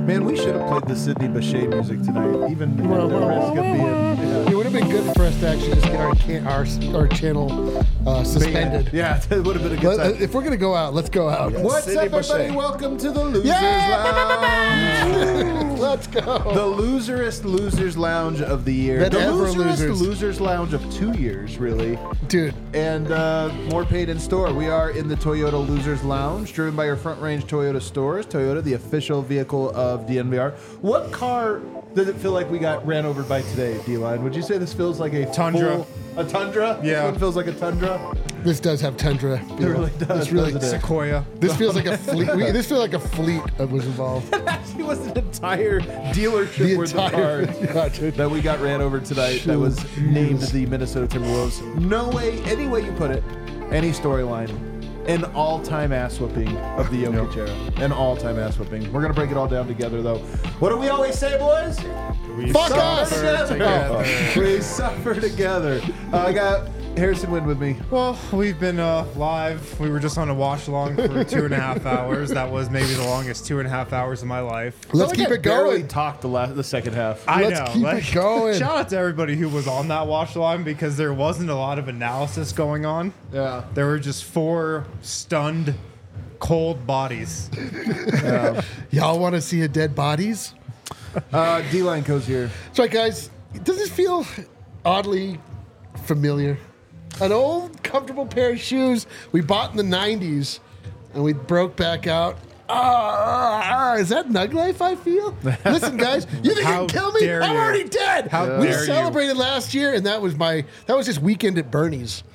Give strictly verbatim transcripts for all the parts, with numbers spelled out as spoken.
Man, we should have played the Sidney Bechet music tonight, even at Whoa, the whoa, risk whoa, of whoa, being. whoa. Yeah. It would have been good for us to actually just get our can- our, our channel uh, suspended. Yeah, it would have been a good Let- time. if we're gonna go out, let's go out. What's Sidney up, everybody? Bechet. Welcome to the Losers Yeah! Lounge. Let's go. The loserest Losers Lounge of the year. That the ever loserest losers. Losers Lounge of two years, really. Dude, And uh, more paid in store. We are in the Toyota Losers Lounge, driven by your front range Toyota stores. Toyota, the official vehicle of D N V R. What car does it feel like we got ran over by today, D-Line? Would you say this feels like a Tundra. full- a Tundra? Yeah. This one feels like a Tundra? this does have tundra. It really does. This really, doesn't it? Sequoia. this feels like a fleet. We, this feels like a fleet that was involved. Actually was an entire dealership The worth entire- of cars Yeah, dude. that we got ran over tonight that was named the Minnesota Timberwolves. No way, any way you put it, any storyline, an all-time ass whooping of the Jokic era. An all-time ass whooping. We're gonna break it all down together, though. What do we always say, boys? We Fuck suffer us! together. We suffer together. Uh, I got Harrison Wind with me. Well, we've been uh, live. We were just on a watch along for two and a half hours. That was maybe the longest two and a half hours of my life. Let's I keep like it I barely going. talked the last, the second half. I Let's know. keep like, it going. Shout out to everybody who was on that watch along because there wasn't a lot of analysis going on. Yeah. There were just four stunned, cold bodies. Y'all want to see a dead bodies? Uh, D-Line goes here. That's right, guys. Does this feel oddly familiar? An old, comfortable pair of shoes we bought in the nineties, and we broke back out. Ah, ah, is that Nug Life I feel? Listen, guys, you think How you can kill me? dare I'm you. already dead. How we dare you. celebrated last year, and that was my that was just weekend at Bernie's.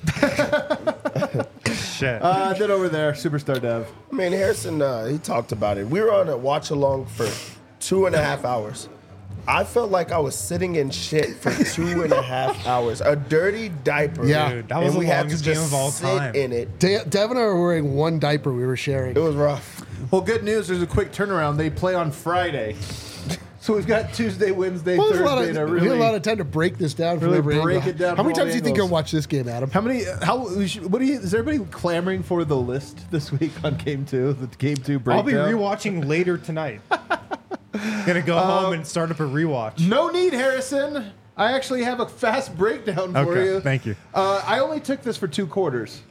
Shit. Uh, then over there, Superstar Dev. I mean, Harrison, uh, he talked about it. We were on a watch along for two and a half hours. I felt like I was sitting in shit for two and a half hours. A dirty diaper. Yeah. Dude, that was and the we had to longest game just of all sit time. in it. De- Dev and I were wearing one diaper we were sharing. It was rough. Well, good news. There's a quick turnaround. They play on Friday. So we've got Tuesday, Wednesday, Well, there's a Thursday lot to of, we really... had a lot of time to break this down. From really every break angle. it down How many from all times do you think you'll angles. watch this game, Adam? How many... How... we should- What do you... Is everybody clamoring for the list this week on Game two? The Game two I'll breakdown? be rewatching later tonight. Gonna go home and start up a rewatch. No need, Harrison. I actually have a fast breakdown for Okay, you. thank you. Uh, I only took this for two quarters.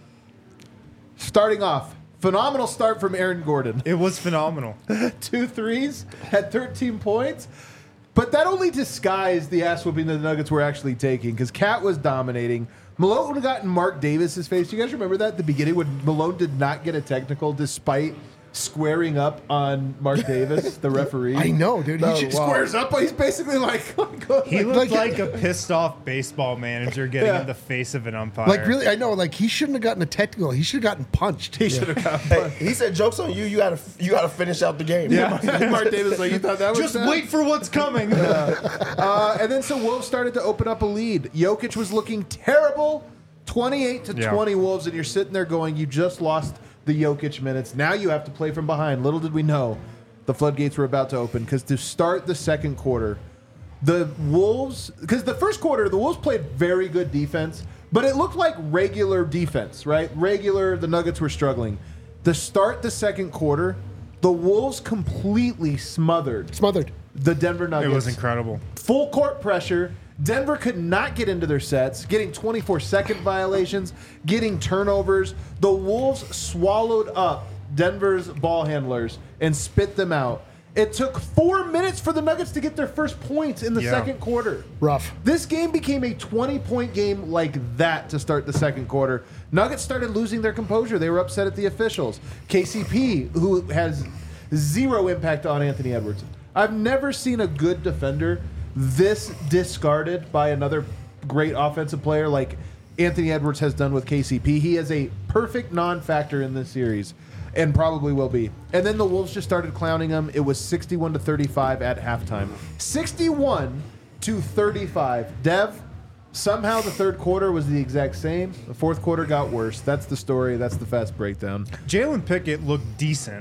Starting off, phenomenal start from Aaron Gordon. It was phenomenal. Two threes, had thirteen points. But that only disguised the ass whooping that the Nuggets were actually taking because Cat was dominating. Malone got in Mark Davis's face. Do you guys remember that at the beginning when Malone did not get a technical despite squaring up on Mark Davis, the referee? I know, dude. He He should, squares up, but he's basically like, He like- looked like, a pissed off baseball manager getting Yeah. in the face of an umpire. like really, I know. Like he shouldn't have gotten a technical. He should have gotten punched. he should have got Hey, he said, "Jokes on you. You gotta, you gotta finish out the game." Yeah, Mark Davis like you thought that was Just sad? wait for what's coming. Uh, and then so Wolves started to open up a lead. Jokic was looking terrible, twenty-eight to Yeah. twenty Wolves, and you're sitting there going, you just lost the Jokic minutes. Now you have to play from behind. Little did we know, the floodgates were about to open because to start the second quarter, the Wolves, because the first quarter the Wolves played very good defense, but it looked like regular defense, right? Regular. The Nuggets were struggling. To start the second quarter, the Wolves completely smothered Smothered. the Denver Nuggets. It was incredible. Full court pressure. Denver could not get into their sets, getting twenty-four second violations, getting turnovers. The Wolves swallowed up Denver's ball handlers and spit them out. It took four minutes for the Nuggets to get their first points in the Yeah. second quarter. Rough. This game became a twenty-point game like that to start the second quarter. Nuggets started losing their composure. They were upset at the officials. K C P, who has zero impact on Anthony Edwards. I've never seen a good defender this discarded by another great offensive player like Anthony Edwards has done with K C P. He is a perfect non-factor in this series and probably will be. And then the Wolves just started clowning him. It was sixty-one to thirty-five at halftime. sixty-one to thirty-five. Dev, somehow the third quarter was the exact same. The fourth quarter got worse. That's the story. That's the fast breakdown. Jalen Pickett looked decent.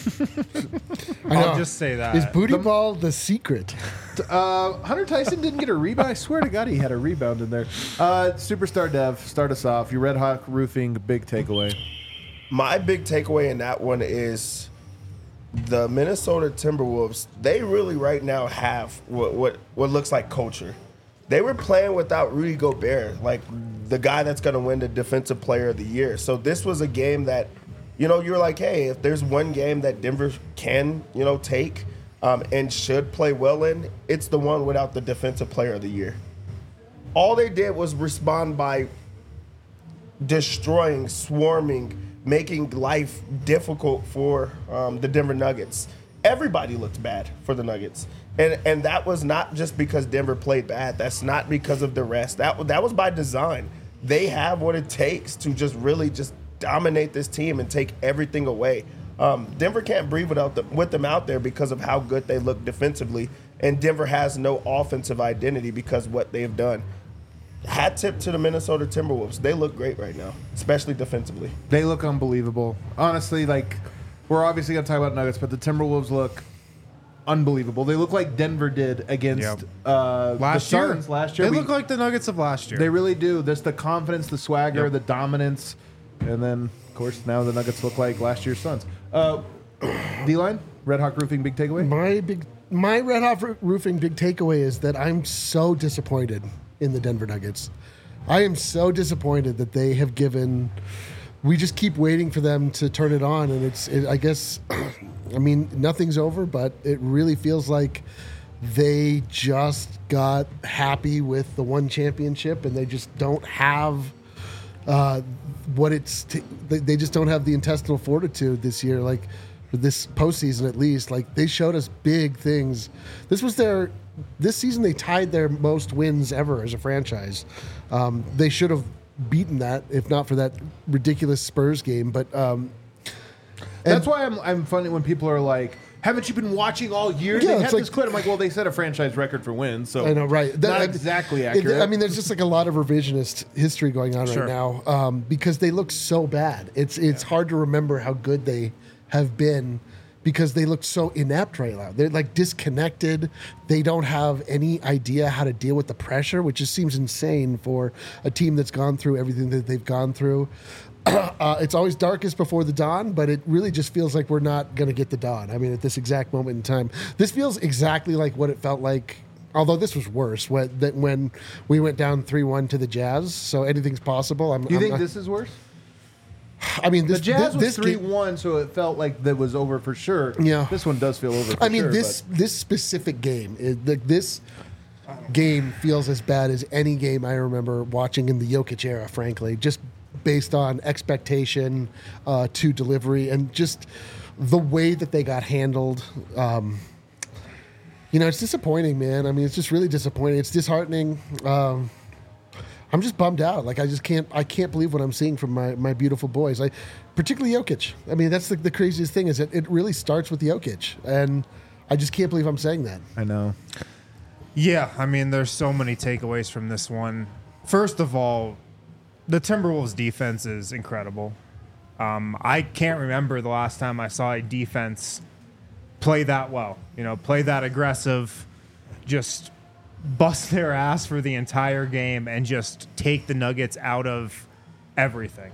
I know. I'll just say that. Is booty ball the secret? Uh, Hunter Tyson didn't get a rebound. I swear to God, he had a rebound in there. Uh, Superstar Dev, start us off. Your Red Hawk Roofing big takeaway. My big takeaway in that one is the Minnesota Timberwolves, they really right now have what what what looks like culture. They were playing without Rudy Gobert, like the guy that's going to win the Defensive Player of the Year. So this was a game that, you know, you're like, hey, if there's one game that Denver can, you know, take um, and should play well in, it's the one without the Defensive Player of the Year. All they did was respond by destroying, swarming, making life difficult for um, the Denver Nuggets. Everybody looked bad for the Nuggets. And and that was not just because Denver played bad. That's not because of the rest. That, that was by design. They have what it takes to just really just dominate this team and take everything away. Um, Denver can't breathe without the, with them out there because of how good they look defensively. And Denver has no offensive identity because of what they've done. Hat tip to the Minnesota Timberwolves. They look great right now, especially defensively. They look unbelievable. Honestly, like, we're obviously going to talk about Nuggets, but the Timberwolves look unbelievable. They look like Denver did against Yep. uh, Last the year, Suns last year. they We- look like the Nuggets of last year. They really do. There's the confidence, the swagger, Yep. the dominance, and then, of course, now the Nuggets look like last year's Suns. Uh, D-line, Red Hawk Roofing, big takeaway? My big, my Red Hot Roo- Roofing big takeaway is that I'm so disappointed in the Denver Nuggets. I am so disappointed that they have given. We just keep waiting for them to turn it on, and it's. It, I guess, I mean, nothing's over, but it really feels like they just got happy with the one championship, and they just don't have uh, what it's. T- they, they just don't have the intestinal fortitude this year, like for this postseason at least. Like they showed us big things. This was their. This season they tied their most wins ever as a franchise. Um, they should have beaten that if not for that ridiculous Spurs game. But um, That's why I'm, I'm funny when people are like, haven't you been watching all year? Yeah, they it's had like- this quit. I'm like, well, they set a franchise record for wins, so I know, right? not That- exactly it- accurate. I mean, there's just like a lot of revisionist history going on Sure. right now um, because they look so bad. It's it's hard to remember how good they have been because they look so inept right now. They're like disconnected. They don't have any idea how to deal with the pressure, which just seems insane for a team that's gone through everything that they've gone through. Uh, it's always darkest before the dawn, but it really just feels like we're not going to get the dawn. I mean, at this exact moment in time, this feels exactly like what it felt like. Although this was worse when, that when we went down three one to the Jazz, so anything's possible. I'm, Do you I'm think not- this is worse? I mean, this The Jazz this, was this three game- one, so it felt like that was over for sure. Yeah. This one does feel over for I mean, sure, this but- this specific game, it, the, this game feels as bad as any game I remember watching in the Jokic era. Frankly, just based on expectation uh, to delivery and just the way that they got handled. Um, you know, it's disappointing, man. I mean, it's just really disappointing. It's disheartening. Um, I'm just bummed out. Like I just can't. I can't believe what I'm seeing from my, my beautiful boys. Like, particularly Jokic. I mean, that's the, the craziest thing is that it really starts with Jokic, and I just can't believe I'm saying that. I know. Yeah, I mean, there's so many takeaways from this one. First of all, the Timberwolves defense is incredible. Um, I can't remember the last time I saw a defense play that well. You know, play that aggressive, just bust their ass for the entire game and just take the Nuggets out of everything.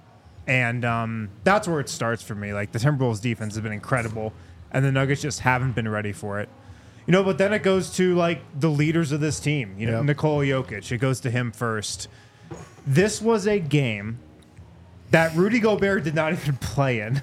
And um, that's where it starts for me. Like, the Timberwolves defense has been incredible, and the Nuggets just haven't been ready for it. You know, but then it goes to, like, the leaders of this team. You know, Yep. Nikola Jokic. It goes to him first. This was a game that Rudy Gobert did not even play in.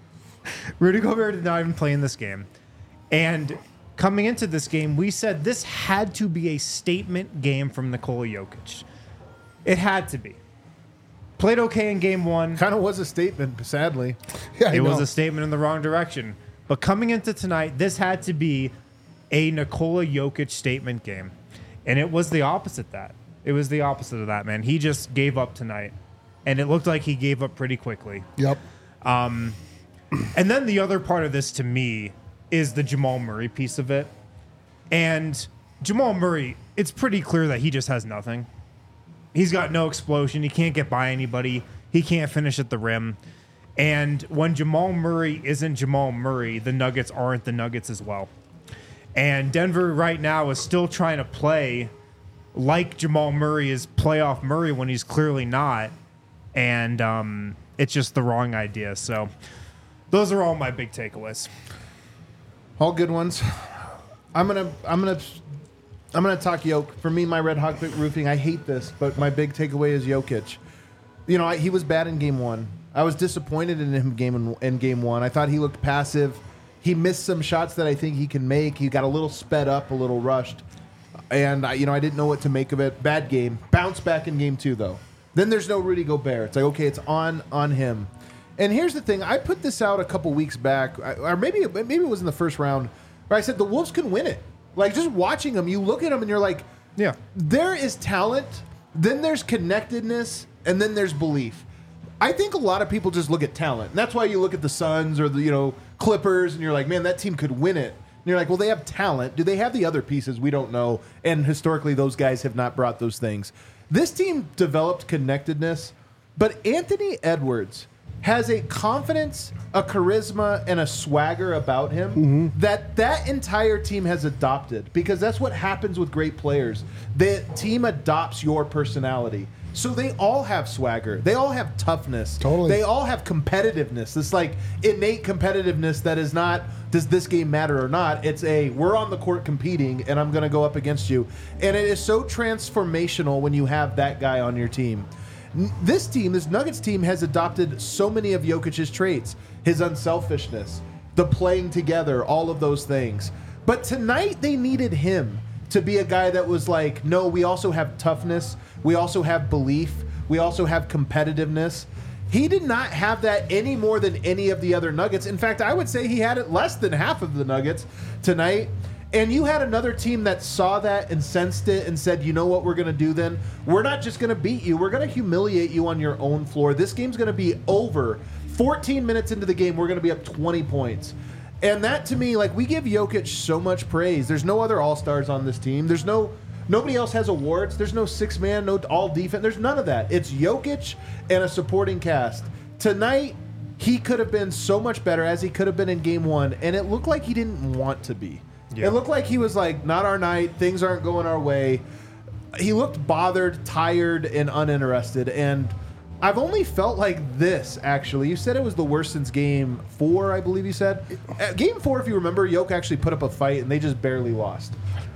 Rudy Gobert did not even play in this game. And coming into this game, we said this had to be a statement game from Nikola Jokic. It had to be. Played okay in game one. Kind of was a statement, sadly. Yeah, I It was know. a statement in the wrong direction. But coming into tonight, this had to be a Nikola Jokic statement game. And it was the opposite of that. It was the opposite of that, man. He just gave up tonight. And it looked like he gave up pretty quickly. Yep. And then the other part of this to me is the Jamal Murray piece of it. And Jamal Murray, it's pretty clear that he just has nothing. He's got no explosion. He can't get by anybody. He can't finish at the rim. And when Jamal Murray isn't Jamal Murray, the Nuggets aren't the Nuggets as well. And Denver right now is still trying to play like Jamal Murray is playoff Murray when he's clearly not. And um, it's just the wrong idea. So those are all my big takeaways. All good ones. I'm gonna I'm gonna I'm gonna talk Jokic. For me, my Red Hawk roofing. I hate this, but my big takeaway is Jokic. You know, I, he was bad in game one. I was disappointed in him game in, in game one. I thought he looked passive. He missed some shots that I think he can make. He got a little sped up, a little rushed, and I, you know I didn't know what to make of it. Bad game. Bounce back in game two though. Then there's no Rudy Gobert. It's like okay, it's on on him. And here's the thing: I put this out a couple weeks back, or maybe maybe it was in the first round, where I said the Wolves can win it. Like just watching them, you look at them and you're like, Yeah. there is talent, then there's connectedness, and then there's belief. I think a lot of people just look at talent, and that's why you look at the Suns or the you know Clippers, and you're like, man, that team could win it. And you're like, well, they have talent. Do they have the other pieces? We don't know. And historically, those guys have not brought those things. This team developed connectedness, but Anthony Edwards has a confidence, a charisma, and a swagger about him mm-hmm. that that entire team has adopted, because that's what happens with great players. The team adopts your personality. So they all have swagger. They all have toughness. Totally. They all have competitiveness. This like innate competitiveness that is not, does this game matter or not? It's a, we're on the court competing and I'm going to go up against you. And it is so transformational when you have that guy on your team. This team, this Nuggets team, has adopted so many of Jokic's traits. His unselfishness, the playing together, all of those things. But tonight they needed him to be a guy that was like, no, we also have toughness. We also have belief. We also have competitiveness. He did not have that any more than any of the other Nuggets. In fact, I would say he had it less than half of the Nuggets tonight. And you had another team that saw that and sensed it and said, you know what we're going to do then? We're not just going to beat you. We're going to humiliate you on your own floor. This game's going to be over. fourteen minutes into the game, we're going to be up twenty points. And that to me, like, we give Jokic so much praise. There's no other all-stars on this team. There's no, nobody else has awards. There's no six-man, no all-defense. There's none of that. It's Jokic and a supporting cast. Tonight, he could have been so much better as he could have been in game one, and it looked like he didn't want to be. Yeah. It looked like he was like, not our night, things aren't going our way. He looked bothered, tired, and uninterested, and I've only felt like this, actually. You said it was the worst since game four, I believe you said. At game four, if you remember, Jokic actually put up a fight, and they just barely lost.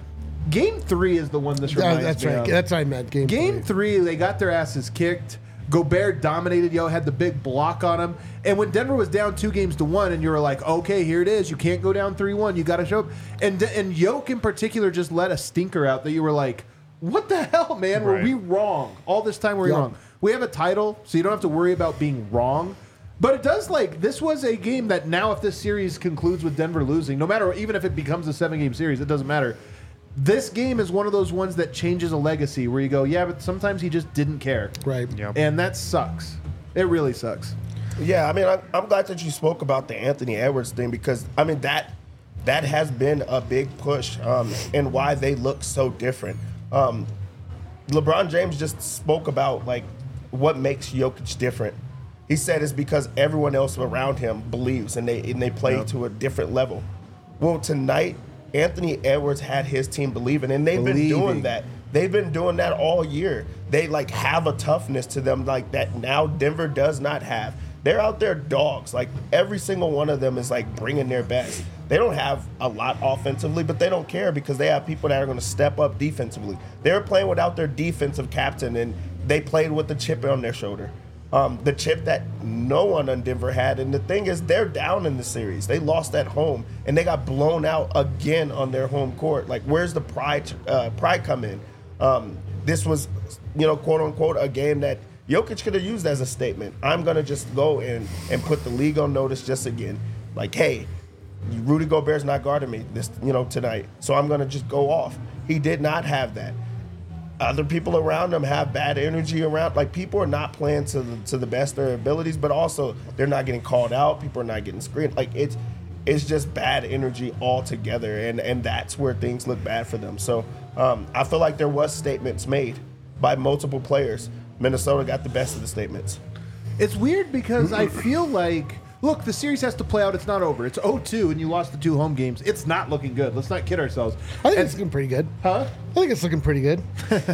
Game three is the one this reminds oh, that's me right. of. That's what I meant. Game, game three. three, they got their asses kicked. Gobert dominated, yo, had the big block on him. And when Denver was down two games to one, and you were like, okay, here it is. You can't go down three one. You got to show up. And, and Jokic in particular just let a stinker out that you were like, what the hell, man? Were Right. we wrong? All this time were we Yeah. wrong? We have a title, so you don't have to worry about being wrong. But it does, like, this was a game that now if this series concludes with Denver losing, no matter, even if it becomes a seven-game series, it doesn't matter. This game is one of those ones that changes a legacy where you go, yeah, but sometimes he just didn't care. Right. Yep. And that sucks. It really sucks. Yeah, I mean, I'm, I'm glad that you spoke about the Anthony Edwards thing because, I mean, that that has been a big push um, and why they look so different. Um, LeBron James just spoke about, like, what makes Jokic different. He said it's because everyone else around him believes and they and they play Yep. to a different level. Well, tonight, Anthony Edwards had his team believing, and they've Believing. been doing that. They've been doing that all year. They like have a toughness to them like that now Denver does not have. They're out there dogs. Like every single one of them is like bringing their best. They don't have a lot offensively, but they don't care because they have people that are going to step up defensively. They were playing without their defensive captain, and they played with the chip on their shoulder. Um, the chip that no one on Denver had. And the thing is, they're down in the series. They lost at home, and they got blown out again on their home court. Like, where's the pride uh, pride come in? Um, this was, you know, quote unquote, a game that Jokic could have used as a statement. I'm going to just go in and put the league on notice just again. Like, hey, Rudy Gobert's not guarding me this, you know, tonight, so I'm going to just go off. He did not have that. Other people around him have bad energy around. Like, people are not playing to the, to the best of their abilities, but also they're not getting called out. People are not getting screened. Like, it's it's just bad energy altogether, and, and that's where things look bad for them. So um, I feel like there was statements made by multiple players. Minnesota got the best of the statements. It's weird because I feel like, look, the series has to play out. It's not over. It's oh two, and you lost the two home games. It's not looking good. Let's not kid ourselves. I think And- it's looking pretty good. Huh? I think it's looking pretty good.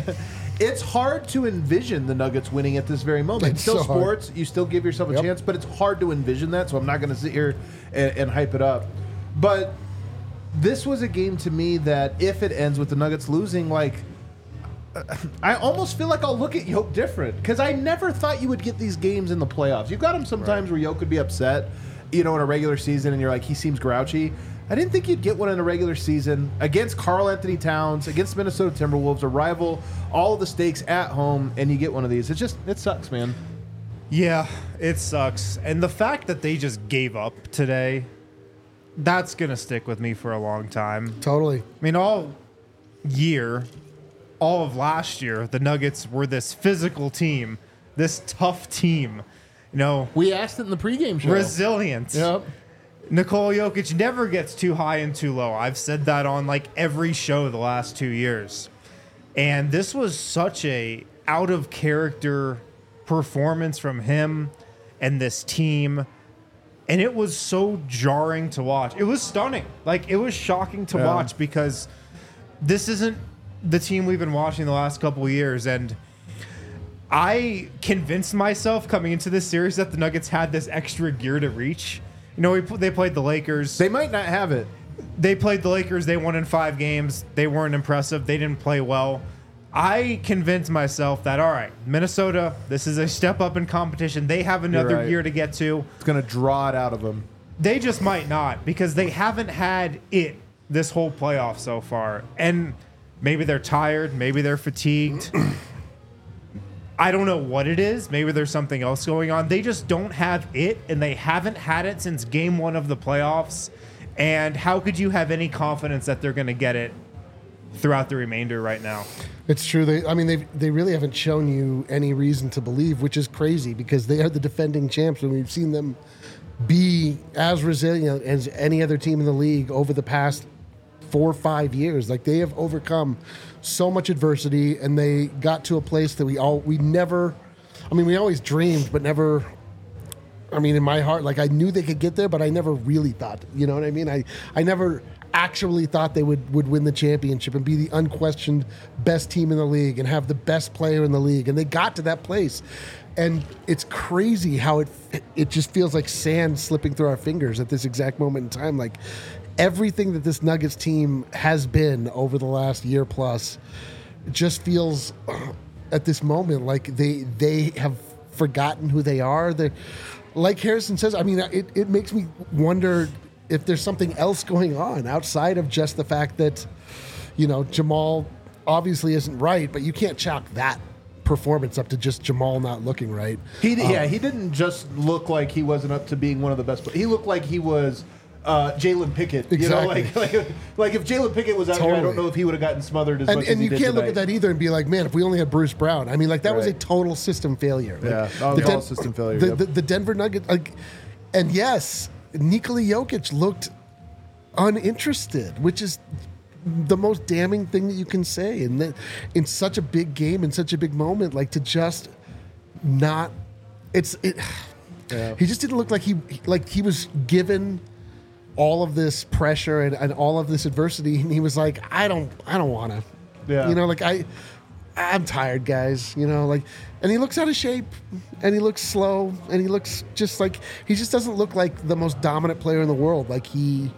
It's hard to envision the Nuggets winning at this very moment. It's It's still so hard. sports. You still give yourself a Yep. chance, but it's hard to envision that, so I'm not going to sit here and, and hype it up. But this was a game to me that if it ends with the Nuggets losing, like, I almost feel like I'll look at Yoke different because I never thought you would get these games in the playoffs. You've got them sometimes where Yoke could be upset, you know, in a regular season, and you're like, he seems grouchy. I didn't think you'd get one in a regular season against Karl Anthony Towns, against Minnesota Timberwolves, a rival, all of the stakes at home, and you get one of these. It just, it sucks, man. Yeah, it sucks. And the fact that they just gave up today, that's going to stick with me for a long time. Totally. I mean, all year, all of last year, the Nuggets were this physical team, this tough team. You know, We asked it in the pregame show. resilient. Yep. Nikola Jokic never gets too high and too low. I've said that on like every show the last two years. And this was such a out of character performance from him and this team. And it was so jarring to watch. It was stunning. Like, it was shocking to Yeah. watch because this isn't the team we've been watching the last couple of years. And I convinced myself coming into this series that the Nuggets had this extra gear to reach. You know, we, they played the Lakers. They might not have it. They played the Lakers. They won in five games. They weren't impressive. They didn't play well. I convinced myself that, all right, Minnesota, this is a step up in competition. They have another right. year to get to. It's going to draw it out of them. They just might not because they haven't had it this whole playoff so far. And maybe they're tired. Maybe they're fatigued. I don't know what it is. Maybe there's something else going on. They just don't have it, and they haven't had it since game one of the playoffs. And how could you have any confidence that they're going to get it throughout the remainder right now? It's true. They, I mean, they they really haven't shown you any reason to believe, which is crazy because they are the defending champs, and we've seen them be as resilient as any other team in the league over the past four or five years. Like, they have overcome so much adversity, and they got to a place that we all we never. I mean, we always dreamed, but never. I mean, in my heart, like, I knew they could get there, but I never really thought. You know what I mean? I I never actually thought they would, would win the championship and be the unquestioned best team in the league and have the best player in the league. And they got to that place. And it's crazy how it it just feels like sand slipping through our fingers at this exact moment in time. Like, everything that this Nuggets team has been over the last year plus just feels uh, at this moment like they they have forgotten who they are. They're, like Harrison says, I mean, it, it makes me wonder if there's something else going on outside of just the fact that, you know, Jamal obviously isn't right, but you can't chalk that performance up to just Jamal not looking right. He, Um, yeah, he didn't just look like he wasn't up to being one of the best. He looked like he was uh, Jalen Pickett. You know, Exactly. like, like like if Jalen Pickett was out here, I Totally. don't know if he would have gotten smothered as And, much and as he you did can't look tonight. at that either and be like, man, if we only had Bruce Brown. I mean, like, that was a Right. total system failure. Like, Yeah. Oh, the all system failure, The, yep. the, the Denver Nuggets, like, and yes, Nikola Jokic looked uninterested, which is the most damning thing that you can say. And that in such a big game, in such a big moment, like, to just not, it's it. Yeah. He just didn't look like he like he was given all of this pressure and, and all of this adversity, and he was like, I don't, I don't want to. Yeah. You know, like I, I'm tired, guys. You know, like, and he looks out of shape, and he looks slow, and he looks just like he just doesn't look like the most dominant player in the world, like he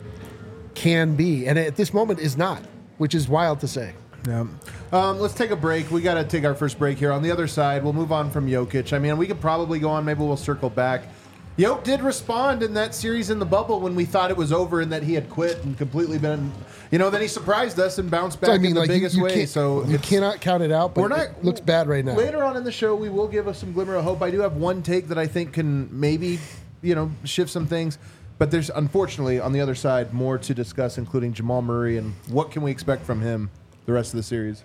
can be, and at this moment is not, which is wild to say. Yeah. Um, let's take a break. We got to take our first break here. On the other side, we'll move on from Jokic. I mean, we could probably go on. Maybe we'll circle back. Jokic did respond in that series in the bubble when we thought it was over and that he had quit and completely been, you know, then he surprised us and bounced back So, I mean, in the like, you, biggest you way. can't, So you it's- cannot count it out, but We're not- it looks bad right now. Later on in the show, we will give us some glimmer of hope. I do have one take that I think can maybe, you know, shift some things. But there's, unfortunately, on the other side, more to discuss, including Jamal Murray and what can we expect from him the rest of the series.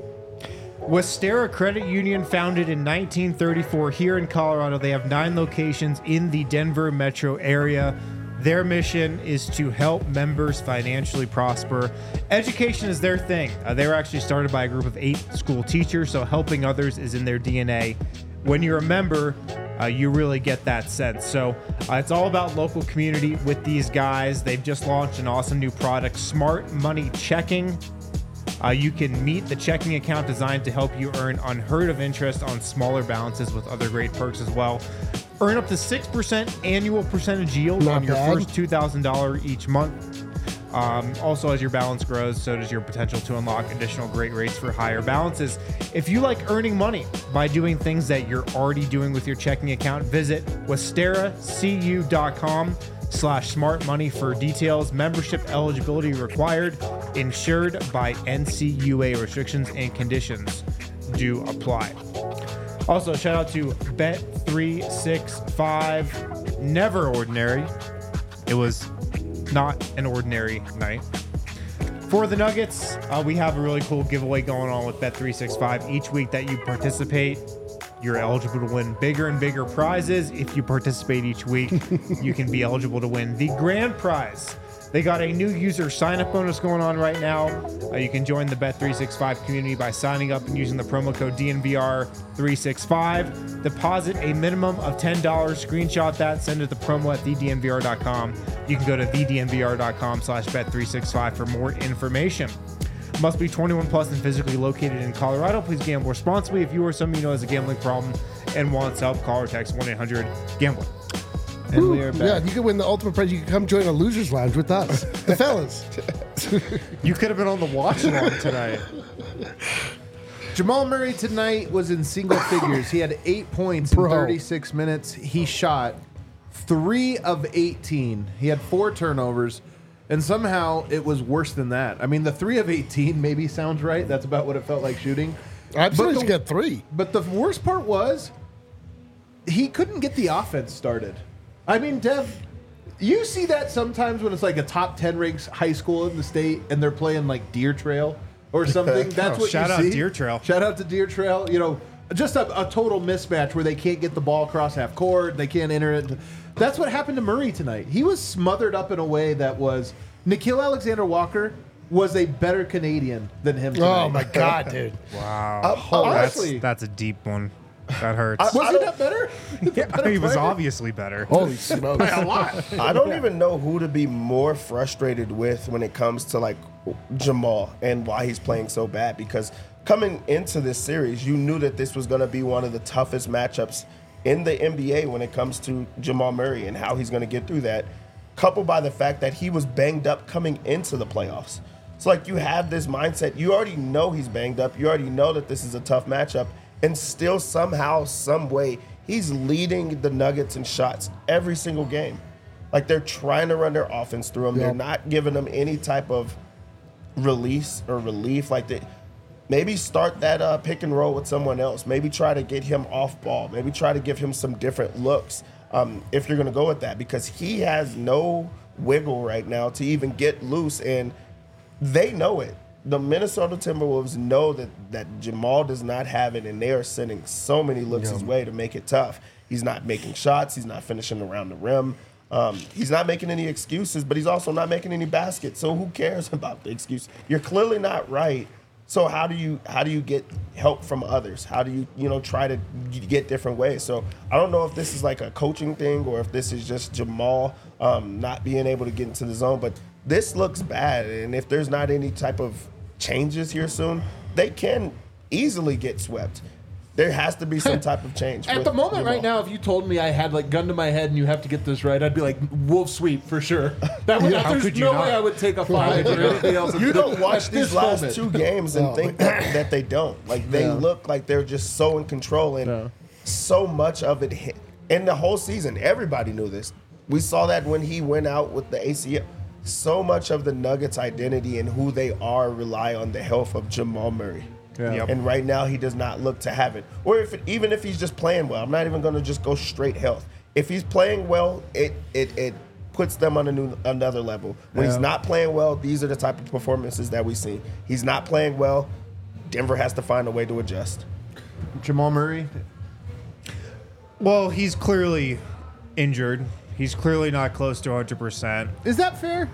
Westera Credit Union, founded in nineteen thirty-four here in Colorado. They have nine locations in the Denver metro area. Their mission is to help members financially prosper. Education is their thing. Uh, they were actually started by a group of eight school teachers, so helping others is in their D N A. When you're a member, uh, you really get that sense. So uh, it's all about local community with these guys. They've just launched an awesome new product, Smart Money Checking. Uh, you can meet the checking account designed to help you earn unheard of interest on smaller balances with other great perks as well. Earn up to six percent annual percentage yield Not on your bad. first two thousand dollars each month. Um, also, as your balance grows, so does your potential to unlock additional great rates for higher balances. If you like earning money by doing things that you're already doing with your checking account, visit westeracu.com slash smart money for details. Membership eligibility required. Insured by N C U A. Restrictions and conditions do apply. Also, shout out to Bet three sixty-five. Never ordinary. It was not an ordinary night. For the Nuggets, uh, we have a really cool giveaway going on with Bet three sixty-five. Each week that you participate, you're eligible to win bigger and bigger prizes. If you participate each week, you can be eligible to win the grand prize. They got a new user sign-up bonus going on right now. Uh, you can join the Bet three sixty-five community by signing up and using the promo code D N V R three sixty-five. Deposit a minimum of ten dollars. Screenshot that. Send it to promo at the D N V R dot com. You can go to the D N V R dot com slash Bet three sixty-five for more information. Must be twenty-one plus and physically located in Colorado. Please gamble responsibly. If you or someone you know has a gambling problem and wants help, call or text one eight hundred gambler. And we are back. Yeah, you could win the ultimate prize. You could come join a loser's lounge with us, the fellas. You could have been on the watch along tonight. Jamal Murray tonight was in single figures. He had eight points Bro. in thirty-six minutes. He shot three of eighteen. He had four turnovers, and somehow it was worse than that. I mean, the three of eighteen maybe sounds right. That's about what it felt like shooting. I'm But supposed the- to get three. But the worst part was he couldn't get the offense started. I mean, Dev, you see that sometimes when it's like a top ten ranked high school in the state and they're playing like Deer Trail or something. That's Oh, what shout you out see. Deer Trail. Shout out to Deer Trail. You know, just a, a total mismatch where they can't get the ball across half court. They can't enter it. That's what happened to Murray tonight. He was smothered up in a way that was Nikhil Alexander-Walker was a better Canadian than him tonight. Oh my god, dude! Wow. Uh, honestly. that's, that's a deep one. That hurts. Was he not better? Yeah, he was obviously better. Holy smokes! a lot. I don't even know who to be more frustrated with when it comes to like Jamal and why he's playing so bad. Because coming into this series, you knew that this was going to be one of the toughest matchups in the N B A when it comes to Jamal Murray and how he's going to get through that. Coupled by the fact that he was banged up coming into the playoffs. So like you have this mindset, you already know he's banged up. You already know that this is a tough matchup. And still somehow, some way, he's leading the Nuggets in shots every single game. Like they're trying to run their offense through him. Yeah. They're not giving them any type of release or relief. Like they maybe start that uh, pick and roll with someone else. Maybe try to get him off ball. Maybe try to give him some different looks um, if you're going to go with that. Because he has no wiggle right now to even get loose. And they know it. The Minnesota Timberwolves know that, that Jamal does not have it, and they are sending so many looks his way to make it tough. He's not making shots. He's not finishing around the rim. Um, he's not making any excuses, but he's also not making any baskets. So who cares about the excuse? You're clearly not right. So how do you how do you get help from others? How do you you know try to get different ways? So I don't know if this is like a coaching thing or if this is just Jamal um, not being able to get into the zone, but this looks bad, and if there's not any type of changes here soon, they can easily get swept. There has to be some type of change. At with the moment Jamal. right now, if you told me I had like gun to my head and you have to get this right, I'd be like wolf sweep for sure. That would, How there's could you no not? way I would take a five or anything else. You don't At watch this these last moment. two games and No. think that, that they don't. Like they Yeah. look like they're just so in control, and Yeah. so much of it hit. In the whole season, everybody knew this. We saw that when he went out with the A C L. So much of the Nuggets' identity and who they are rely on the health of Jamal Murray. Yeah. Yep. And right now, he does not look to have it. Or if it, even if he's just playing well, I'm not even going to just go straight health. If he's playing well, it it it puts them on a new another level. When Yeah. he's not playing well, these are the type of performances that we see. He's not playing well. Denver has to find a way to adjust. Jamal Murray. Well, he's clearly injured. He's clearly not close to one hundred percent. Is that fair?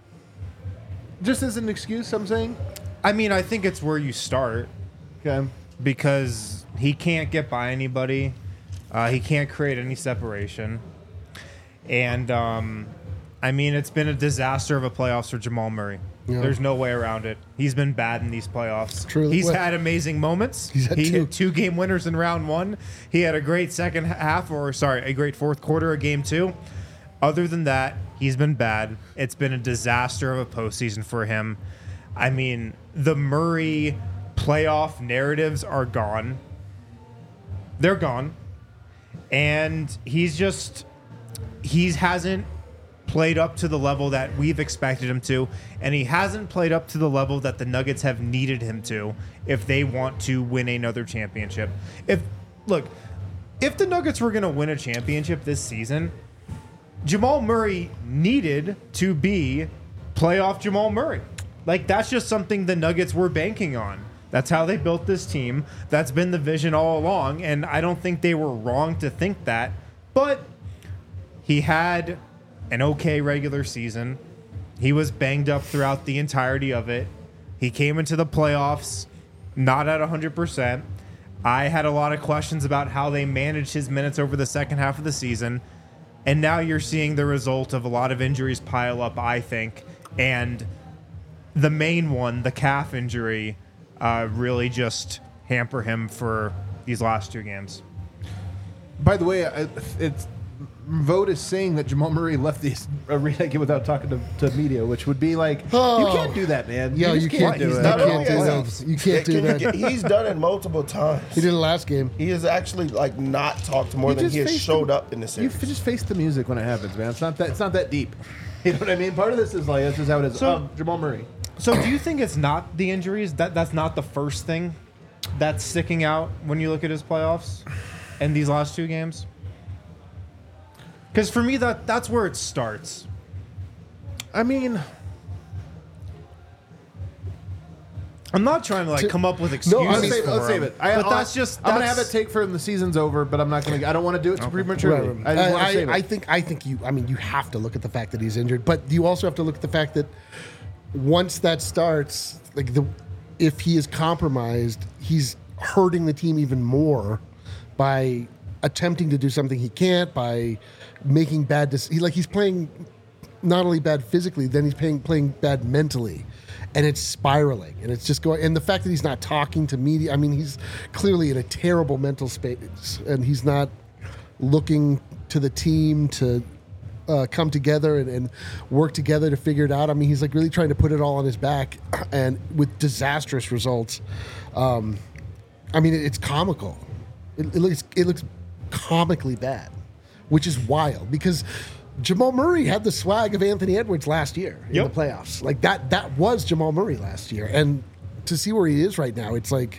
Just as an excuse, I'm saying. I mean, I think it's where you start Okay. because he can't get by anybody. Uh, he can't create any separation. And, um, I mean, it's been a disaster of a playoffs for Jamal Murray. Yeah. There's no way around it. He's been bad in these playoffs. Truly. He's Well, had amazing moments. he's had he two. hit two game winners in round one. He had a great second half, or sorry, a great fourth quarter of game two. Other than that, he's been bad. It's been a disaster of a postseason for him. I mean, the Murray playoff narratives are gone. They're gone. And he's just, he hasn't played up to the level that we've expected him to, and he hasn't played up to the level that the Nuggets have needed him to if they want to win another championship. If look, if the Nuggets were going to win a championship this season, Jamal Murray needed to be playoff Jamal Murray. Like, that's just something the Nuggets were banking on. That's how they built this team. That's been the vision all along, and I don't think they were wrong to think that. But he had an okay regular season. He was banged up throughout the entirety of it. He came into the playoffs not at one hundred percent. I had a lot of questions about how they managed his minutes over the second half of the season. And now you're seeing the result of a lot of injuries pile up, I think. And the main one, the calf injury, uh, really just hamper him for these last two games. By the way, I- it's Vote is saying that Jamal Murray left the arena again without talking to, to media, which would be like, Oh. you can't do that, man. Yeah, just you can't do do it. Not You only can't do has that. he- You can't do can- that. He's done it multiple times. He did it last game. He has actually like not talked more You than just he has face showed the- up in this You series. f- just face the music when it happens, man. It's not that. It's not that deep. You know what I mean? Part of this is like, this is how it is. So- um, Jamal Murray. So do you think it's not the injuries? That That's not the first thing that's sticking out when you look at his playoffs and these last two games? Because for me, that that's where it starts. I mean, I'm not trying to like To- come up with No, excuses. let's I mean- save it. for Let's him, save it. I, but I'll- that's just. I'm gonna have that's- a take for him. The season's over, but I'm not gonna. I don't want to do it too prematurely. Right, right. I just want I, to save I, it. I think I think you I mean you have to look at the fact that he's injured, but you also have to look at the fact that once that starts, like the if he is compromised, he's hurting the team even more by attempting to do something he can't, by making bad dec- he like he's playing not only bad physically, then he's playing playing bad mentally. And it's spiraling, and it's just going. And the fact that he's not talking to media, I mean, he's clearly in a terrible mental space, and he's not looking to the team to uh, come together and, and work together to figure it out. I mean, he's like really trying to put it all on his back, and with disastrous results. Um, I mean, it, it's comical. It, it looks it looks comically bad, which is wild because Jamal Murray had the swag of Anthony Edwards last year in Yep. the playoffs. Like that that was Jamal Murray last year, and to see where he is right now, it's like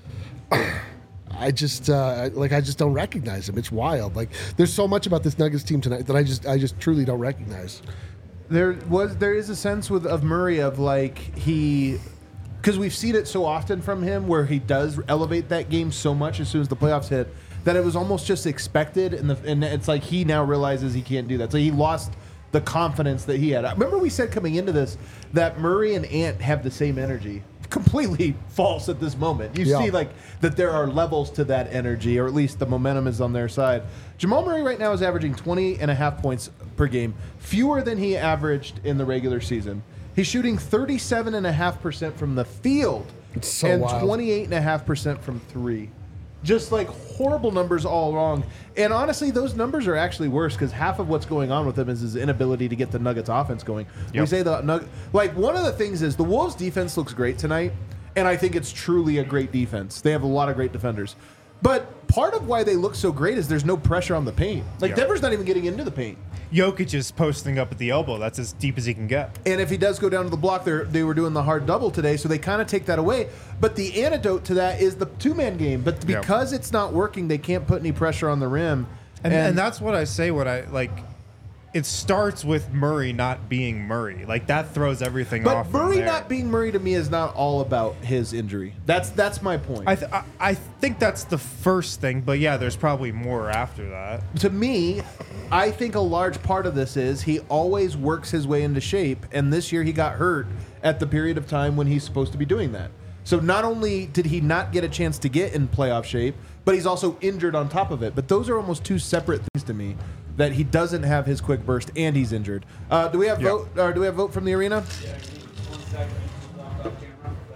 I just uh, like I just don't recognize him. It's wild. Like there's so much about this Nuggets team tonight that I just I just truly don't recognize. there was there is a sense with of Murray of like he because we've seen it so often from him where he does elevate that game so much as soon as the playoffs hit that it was almost just expected, and the and it's like he now realizes he can't do that. So he lost the confidence that he had. I remember we said coming into this that Murray and Ant have the same energy. Completely false at this moment. You Yeah. see like that there are levels to that energy, or at least the momentum is on their side. Jamal Murray right now is averaging twenty and a half points per game, fewer than he averaged in the regular season. He's shooting thirty-seven and a half percent from the field It's so and wild. twenty-eight and a half percent from three. Just like horrible numbers all wrong. And honestly, those numbers are actually worse because half of what's going on with him is his inability to get the Nuggets offense going. We Yep. say the Nug- like one of the things is the Wolves defense looks great tonight, and I think it's truly a great defense. They have a lot of great defenders. But part of why they look so great is there's no pressure on the paint. Like Yeah. Denver's not even getting into the paint. Jokic is posting up at the elbow. That's as deep as he can get. And if he does go down to the block, they they were doing the hard double today, so they kind of take that away. But the antidote to that is the two-man game. But Yeah. because it's not working, they can't put any pressure on the rim. And, and that's what I say. What I like. It starts with Murray not being Murray. Like that throws everything but off. from Murray there. not being Murray to me is not all about his injury. That's that's my point. I, th- I I think that's the first thing, but yeah, there's probably more after that. to me, I think a large part of this is he always works his way into shape, and this year he got hurt at the period of time when he's supposed to be doing that. So not only did he not get a chance to get in playoff shape, but he's also injured on top of it. But those are almost two separate things to me. That he doesn't have his quick burst and he's injured. Uh, do we have Yeah. vote? Or do we have vote from the arena?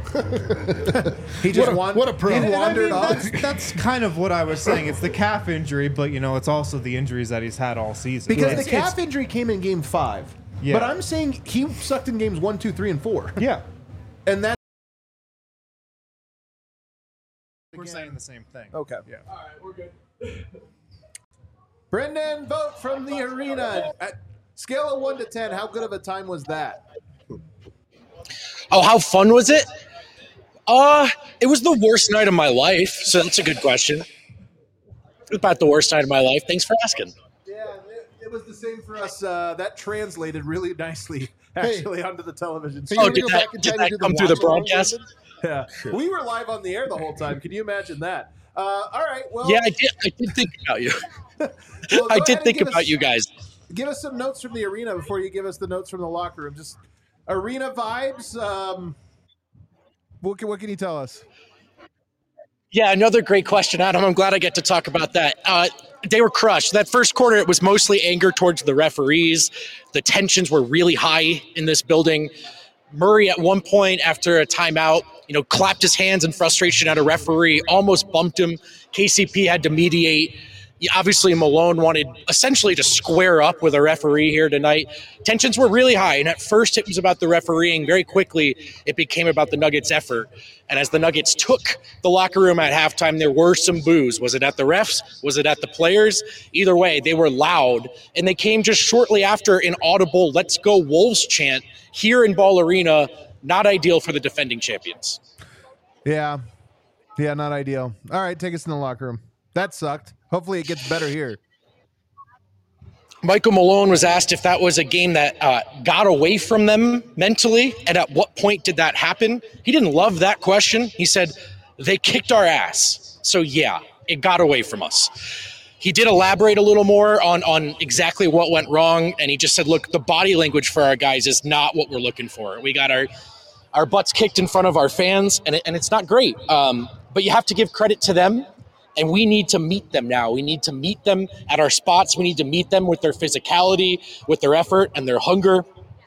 He just What a- wan- what a pro. He And, and I wandered mean, off. that's, that's kind of what I was saying. It's the calf injury, but you know, it's also the injuries that he's had all season. Because It's- the calf it's- injury came in game five. Yeah. But I'm saying he sucked in games one, two, three, and four. yeah, And that. we're saying the same thing. Okay. Yeah. Brendan, vote from the arena. At scale of one to ten, how good of a time was that? Oh, how fun was it? Uh, it was the worst night of my life, so that's a good question. It was about the worst night of my life. Thanks for asking. Yeah, it, it was the same for us. Uh, that translated really nicely, actually, onto the television. Hey, screen. Oh, you did go that, back in did time that and do the come through the watch along, broadcast? Brendan? Yeah. We were live on the air the whole time. Can you imagine that? Uh, all right. Well, Yeah, I did. I did think about you. well, I go ahead did and think give about us- you guys. Give us some notes from the arena before you give us the notes from the locker room. Just arena vibes. Um, what can, what can you tell us? Yeah, another great question, Adam. I'm glad I get to talk about that. Uh, they were crushed. That first quarter, it was mostly anger towards the referees. The tensions were really high in this building. Murray, at one point after a timeout, you know, clapped his hands in frustration at a referee, almost bumped him. K C P had to mediate. Yeah, obviously, Malone wanted essentially to square up with a referee here tonight. Tensions were really high, and at first it was about the refereeing. Very quickly, it became about the Nuggets' effort. And as the Nuggets took the locker room at halftime, there were some boos. Was it at the refs? Was it at the players? Either way, they were loud, and they came just shortly after an audible "Let's go Wolves" chant here in Ball Arena. Not ideal for the defending champions. Yeah. Yeah, not ideal. All right, take us in the locker room. That sucked. Hopefully it gets better here. Michael Malone was asked if that was a game that uh, got away from them mentally, and at what point did that happen? He didn't love that question. He said, they kicked our ass. So yeah, it got away from us. He did elaborate a little more on, on exactly what went wrong, and he just said, look, the body language for our guys is not what we're looking for. We got our our butts kicked in front of our fans, and, it, and it's not great. Um, but you have to give credit to them. And we need to meet them now. We need to meet them at our spots. We need to meet them with their physicality, with their effort, and their hunger.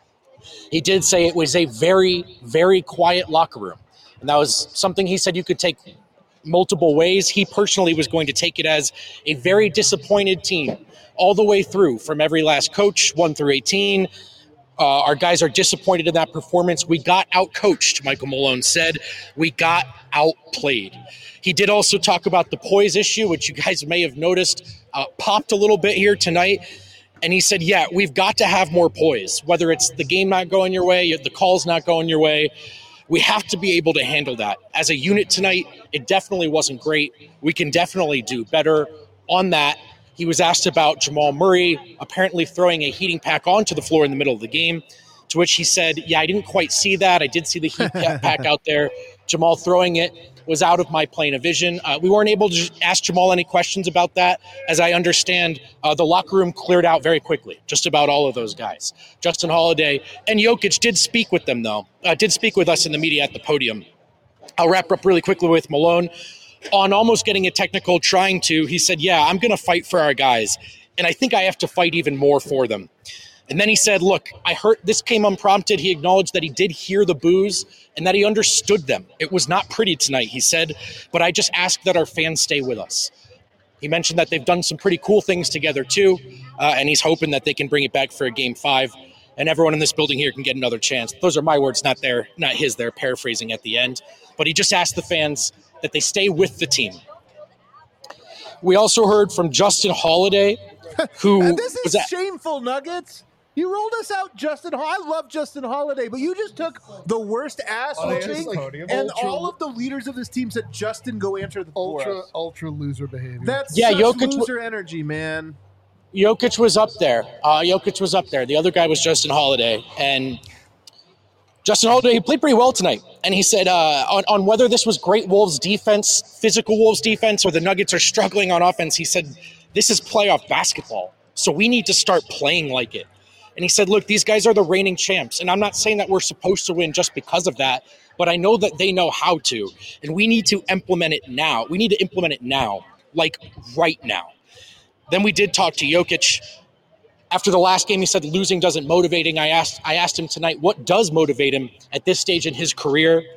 He did say it was a very, very quiet locker room. And that was something he said you could take multiple ways. He personally was going to take it as a very disappointed team all the way through, from every last coach, one through eighteen. Uh, our guys are disappointed in that performance. We got outcoached, Michael Malone said. We got outplayed. He did also talk about the poise issue, which you guys may have noticed uh, popped a little bit here tonight. And he said, yeah, we've got to have more poise, whether it's the game not going your way, the call's not going your way. We have to be able to handle that. As a unit tonight, it definitely wasn't great. We can definitely do better on that. He was asked about Jamal Murray apparently throwing a heating pack onto the floor in the middle of the game, to which he said, yeah, I didn't quite see that. I did see the heat pack out there. Jamal throwing it was out of my plane of vision. Uh, we weren't able to ask Jamal any questions about that. As I understand, uh, the locker room cleared out very quickly, just about all of those guys. Justin Holiday and Jokic did speak with them, though, uh, did speak with us in the media at the podium. I'll wrap up really quickly with Malone. On almost getting a technical, trying to, he said, yeah, I'm going to fight for our guys. And I think I have to fight even more for them. And then he said, look, I heard this came unprompted. He acknowledged that he did hear the boos and that he understood them. It was not pretty tonight, he said, but I just ask that our fans stay with us. He mentioned that they've done some pretty cool things together too, uh, and he's hoping that they can bring it back for a game five, and everyone in this building here can get another chance. Those are my words, not their, not his. They're paraphrasing at the end. But he just asked the fans that they stay with the team. We also heard from Justin Holiday, who And this was is at, shameful, Nuggets. You rolled us out, Justin. Ho- I love Justin Holiday, but you just took the worst ass Oh, yeah, whooping, it's podium. and Ultra- all of the leaders of this team said, "Justin, go answer the for Ultra, us." ultra loser behavior. That's Yeah, such Jokic- loser energy, man. Jokic was up there. Uh, Jokic was up there. The other guy was Justin Holiday. And Justin Holiday, he played pretty well tonight. And he said uh, on, on whether this was great Wolves defense, physical Wolves defense, or the Nuggets are struggling on offense, he said, this is playoff basketball. So we need to start playing like it. And he said, look, these guys are the reigning champs. And I'm not saying that we're supposed to win just because of that, but I know that they know how to. And we need to implement it now. We need to implement it now, like right now. Then we did talk to Jokic. After the last game, he said losing doesn't motivate him. I asked, I asked him tonight, what does motivate him at this stage in his career?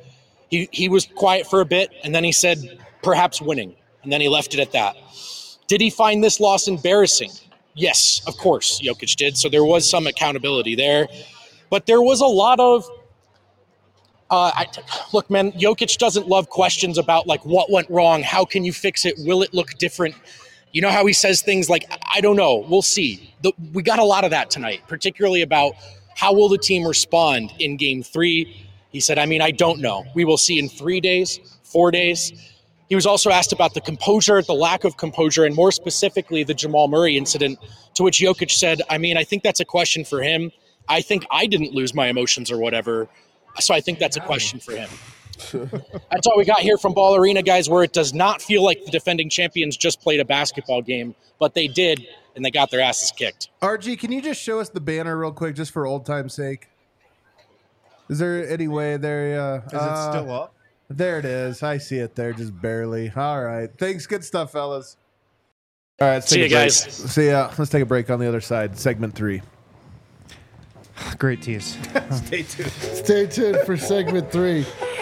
He he was quiet for a bit, and then he said, perhaps winning, and then he left it at that. Did he find this loss embarrassing? Yes, of course, Jokic did. So there was some accountability there. But there was a lot of, uh, I, look, man, Jokic doesn't love questions about, like, what went wrong? How can you fix it? Will it look different? You know how he says things like, I don't know, we'll see. The, we got a lot of that tonight, particularly about how will the team respond in game three. He said, I mean, I don't know. We will see in three days, four days. He was also asked about the composure, the lack of composure, and more specifically, the Jamal Murray incident, to which Jokic said, I mean, I think that's a question for him. I think I didn't lose my emotions or whatever, so I think that's a question for him. That's all we got here from Ball Arena, guys, where it does not feel like the defending champions just played a basketball game, but they did, and they got their asses kicked. R G, can you just show us the banner real quick, just for old time's sake? Is there any way there? Uh, Is it still up? There it is. I see it there, just barely. All right. Thanks. Good stuff, fellas. All right. Let's See take you a break. guys. See ya. Let's take a break on the other side. Segment three. Great tease. Stay tuned. Stay tuned for segment three.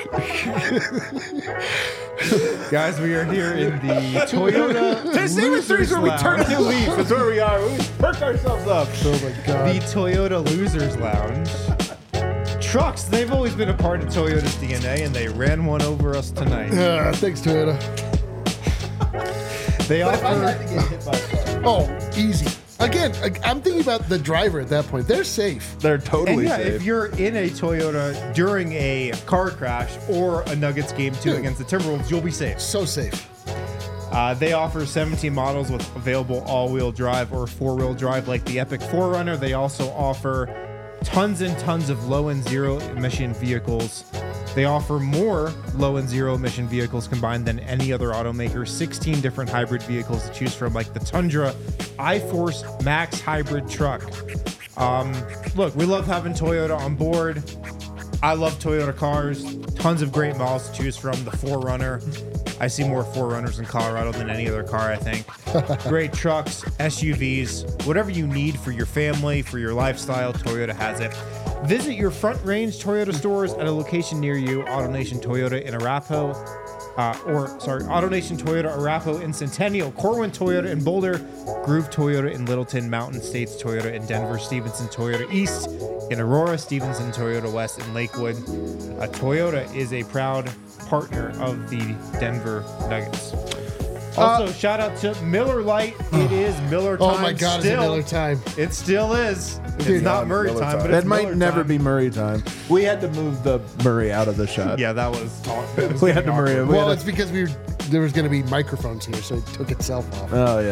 Guys, we are here in the Toyota Segment three is where we turn a new leaf. That's where we are. We perk ourselves up. Oh my god. The Toyota Losers Lounge. Trucks, they've always been a part of Toyota's D N A, and they ran one over us tonight. Uh, thanks, Toyota. They offer... Oh, easy. Again, I- I'm thinking about the driver at that point. They're safe. They're And totally yeah, safe. if you're in a Toyota during a car crash or a Nuggets game two Dude. against the Timberwolves, you'll be safe. So safe. Uh, they offer seventeen models with available all-wheel drive or four-wheel drive like the Epic four runner. They also offer tons and tons of low and zero emission vehicles. They offer more low and zero emission vehicles combined than any other automaker. sixteen different hybrid vehicles to choose from, like the Tundra iForce Max hybrid truck. Um, look, we love having Toyota on board. I love Toyota cars. Tons of great models to choose from. The four runner. I see more four runners in Colorado than any other car, I think. Great trucks, S U Vs, whatever you need for your family, for your lifestyle, Toyota has it. Visit your Front Range Toyota stores at a location near you. AutoNation Toyota in Arapahoe, uh, or sorry, AutoNation Toyota Arapahoe in Centennial, Corwin Toyota in Boulder, Groove Toyota in Littleton, Mountain States Toyota in Denver, Stevenson Toyota East in Aurora, Stevenson Toyota West in Lakewood. Uh, Toyota is a proud partner of the Denver Nuggets. Also, shout out to Miller Lite. It is Miller time. Oh my god, still. it's Miller time. It still is. It's Dude, not yeah, Murray Miller time, time. but that it's might Miller never time. be Murray time. We had to move the Murray out of the shot. Yeah, that was. It was We had to getting Murray. awkward. We Well, had it's because we were, there was going to be microphones here, so it took itself off. to- oh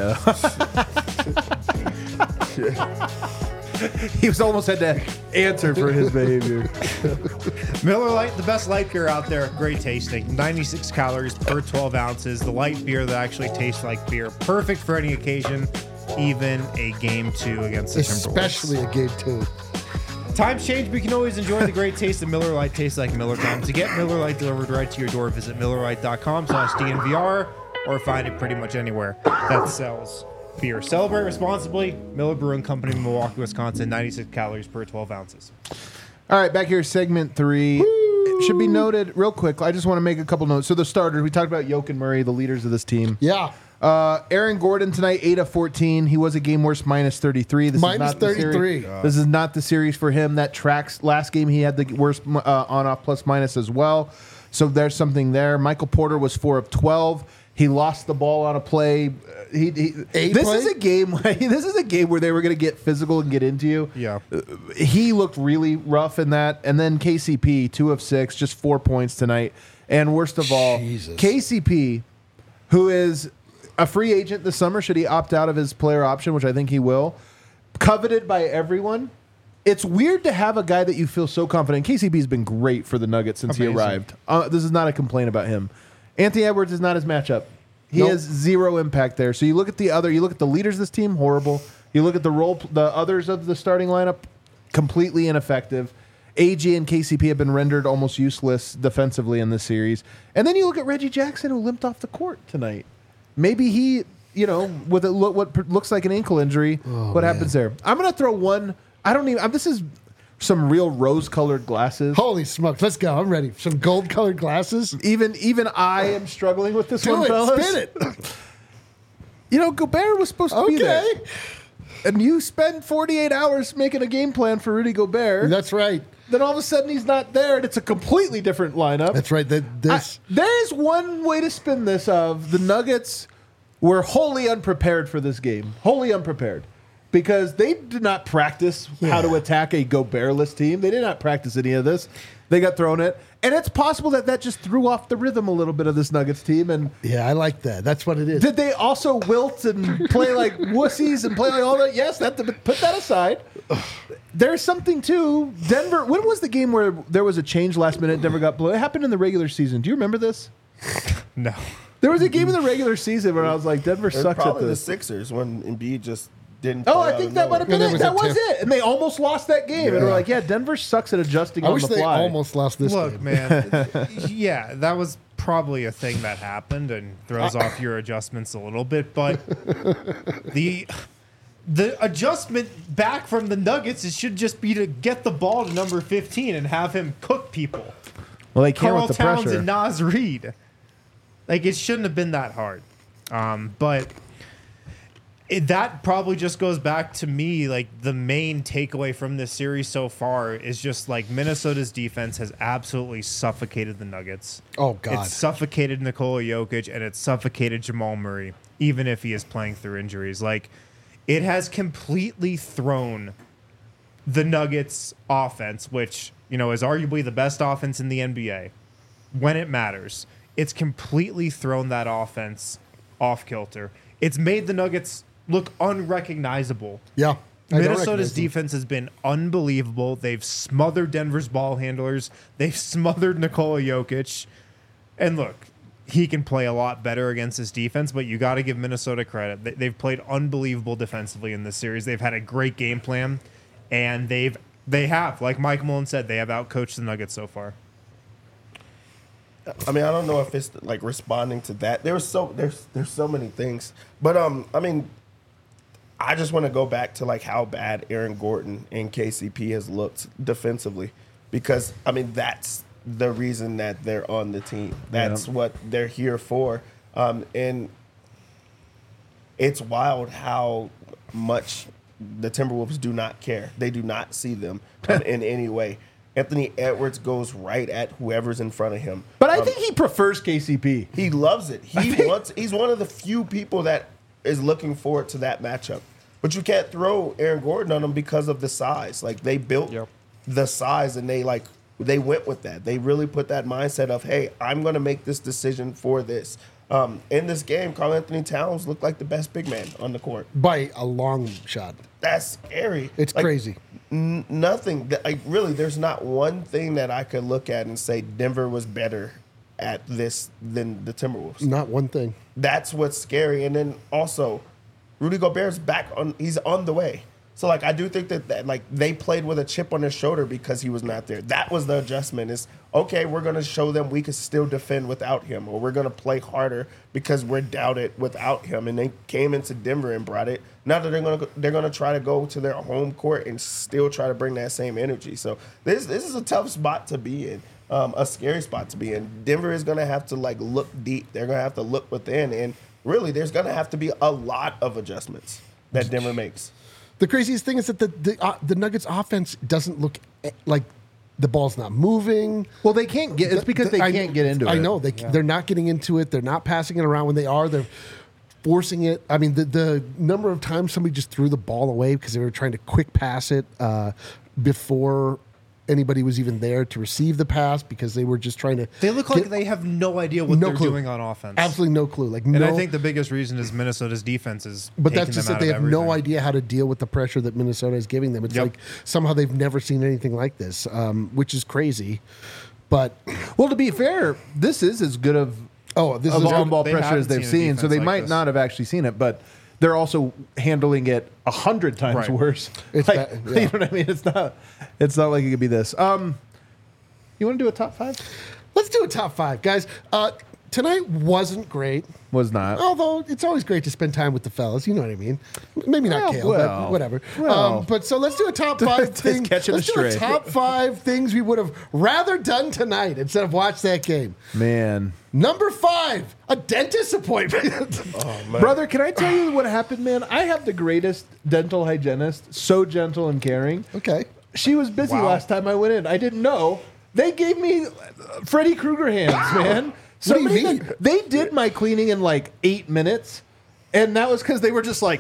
yeah. He was almost had to answer for his behavior. Miller Lite, the best light beer out there. Great tasting. ninety-six calories per twelve ounces. The light beer that actually tastes like beer. Perfect for any occasion, even a game two against the Timberwolves. Especially a game two. Times change, but you can always enjoy the great taste of Miller Lite. Tastes like Miller time. To get Miller Lite delivered right to your door, visit miller lite dot com slash D N V R or find it pretty much anywhere that sells beer. Celebrate responsibly. Miller Brewing Company, Milwaukee, Wisconsin. ninety-six calories per twelve ounces. All right, back here, segment three. It should be noted real quick. I just want to make a couple notes. So the starters, we talked about Jokic and Murray, the leaders of this team. Yeah. Uh, Aaron Gordon tonight, eight of fourteen. He was a game worse, minus thirty-three. This Minus is not the series- thirty-three. This is not the series for him. That tracks. Last game, he had the worst uh, on-off plus minus as well. So there's something there. Michael Porter was four of twelve. He lost the ball on a play. Uh, He, he A this play? is a game. This is a game where they were going to get physical and get into you. Yeah. Uh, he looked really rough in that. And then K C P, two of six, just four points tonight. And worst of all, Jesus. K C P, who is a free agent this summer, should he opt out of his player option, which I think he will, coveted by everyone. It's weird to have a guy that you feel so confident. K C P's been great for the Nuggets since Amazing. he arrived. Uh, this is not a complaint about him. Anthony Edwards is not his matchup. He Nope. has zero impact there. So you look at the other, you look at the leaders of this team, horrible. You look at the role, the others of the starting lineup, completely ineffective. A G and K C P have been rendered almost useless defensively in this series. And then you look at Reggie Jackson, who limped off the court tonight. Maybe he, you know, with a look, what looks like an ankle injury, what happens there? I'm going to throw one. I don't even. I'm, this is some real rose-colored glasses. Holy smokes. Let's go. I'm ready. Some gold-colored glasses. Even even I am struggling with this Do one, it. fellas. Spin it. You know, Gobert was supposed to be there. Okay. And you spend forty-eight hours making a game plan for Rudy Gobert. That's right. Then all of a sudden he's not there, and it's a completely different lineup. That's right. That this. I- there is one way to spin this of the Nuggets were wholly unprepared for this game. Wholly unprepared. Because they did not practice how to attack a Gobert-less team. They did not practice any of this. They got thrown it. And it's possible that that just threw off the rhythm a little bit of this Nuggets team. And Yeah, I like that. That's what it is. did they also wilt and play like wussies and play like all that? Yes, that, put that aside. There's something too. Denver, when was the game where there was a change last minute? Denver got blown. It happened in the regular season. Do you remember this? No. There was a game in the regular season where I was like, Denver It was sucks at probably the this. Sixers when Embiid just didn't. Oh, play I out think of that might have nowhere. been Yeah, it. there That was a was tip. it. And they almost lost that game. And we're Yeah. like, yeah, Denver sucks at adjusting I on wish the they fly. almost lost this Look, game. man. Yeah, that was probably a thing that happened and throws off your adjustments a little bit. But the the adjustment back from the Nuggets it should just be to get the ball to number fifteen and have him cook people. Well, they can't Carl with the Towns pressure. and Nas Reed. Like it shouldn't have been that hard. Um, but it, that probably just goes back to me. Like the main takeaway from this series so far is just like Minnesota's defense has absolutely suffocated the Nuggets. Oh, God. It's suffocated Nikola Jokic and it's suffocated Jamal Murray, even if he is playing through injuries. Like it has completely thrown the Nuggets offense, which, you know, is arguably the best offense in the N B A when it matters. It's completely thrown that offense off kilter. It's made the Nuggets look unrecognizable. Yeah. I don't Minnesota's recognize them. defense has been unbelievable. They've smothered Denver's ball handlers. They've smothered Nikola Jokic. And look, he can play a lot better against this defense, but you got to give Minnesota credit. They- They've played unbelievable defensively in this series. They've had a great game plan, and they've they have, like Mike Mullen said, they have outcoached the Nuggets so far. I mean, I don't know if it's like responding to that. There's so there's there's so many things, but um, I mean, I just want to go back to like how bad Aaron Gordon and K C P has looked defensively, because I mean that's the reason that they're on the team. That's Yeah. what they're here for, um, and it's wild how much the Timberwolves do not care. They do not see them um, in any way. Anthony Edwards goes right at whoever's in front of him. But I Um, think he prefers K C P. he loves it. He think- wants. He's one of the few people that is looking forward to that matchup. But you can't throw Aaron Gordon on him because of the size. Like they built Yep. the size, and they like they went with that. They really put that mindset of, hey, I'm going to make this decision for this. Um, in this game, Karl Anthony Towns looked like the best big man on the court. By a long shot. That's scary. It's Like, crazy. N- nothing. That, like really, there's not one thing that I could look at and say Denver was better at this than the Timberwolves. Not one thing. That's what's scary. And then also, Rudy Gobert's back on. He's on the way. So like, I do think that, that like they played with a chip on their shoulder because he was not there. That was the adjustment. Is okay. We're gonna show them we can still defend without him, or we're gonna play harder because we're doubted without him. And they came into Denver and brought it. Now that they're gonna go- they're gonna try to go to their home court and still try to bring that same energy. So this this is a tough spot to be in. Um, a scary spot to be in. Denver is gonna have to like look deep. They're gonna have to look within, and really, there's gonna have to be a lot of adjustments that Denver makes. The craziest thing is that the the, uh, the Nuggets offense doesn't look eh, like the ball's not moving. Well, they can't get. It's because they I- can't get into it. I know they they're not getting into it. They're not passing it around when they are. They're forcing it. I mean, the the number of times somebody just threw the ball away because they were trying to quick pass it uh, before anybody was even there to receive the pass because they were just trying to. They look like get- they have no idea what No they're clue. doing on offense. absolutely no clue. Like And no. I think the biggest reason is Minnesota's defense is. But taking that's just them that out they of have no everything. idea how to deal with the pressure that Minnesota is giving them. It's Yep. like somehow they've never seen anything like this, um, which is crazy. But Well, to be fair, this is as good of oh, this of is on-ball they pressure haven't as they've seen a seen, so they defense like might this. not have actually seen it, but they're also handling it a hundred times Right. worse. It's Like, bad, yeah. You know what I mean? It's not. It's not like it could be this. Um, you want to do a top five? Let's do a top five, guys. Uh, tonight wasn't great. Was not. Although it's always great to spend time with the fellas, you know what I mean. Maybe not Well, Kale, well, but whatever. well. um, but so let's do a top five Just thing. catching Let's a do a stray. top five things we would have rather done tonight instead of watch that game. Man. Number five, a dentist appointment. Brother, can I tell you what happened, man? I have the greatest dental hygienist, so gentle and caring. Okay. She was busy Wow. last time I went in. I didn't know. They gave me uh, Freddy Krueger hands, man. What do you Somebody mean? that- They did my cleaning in like eight minutes, and that was because they were just like,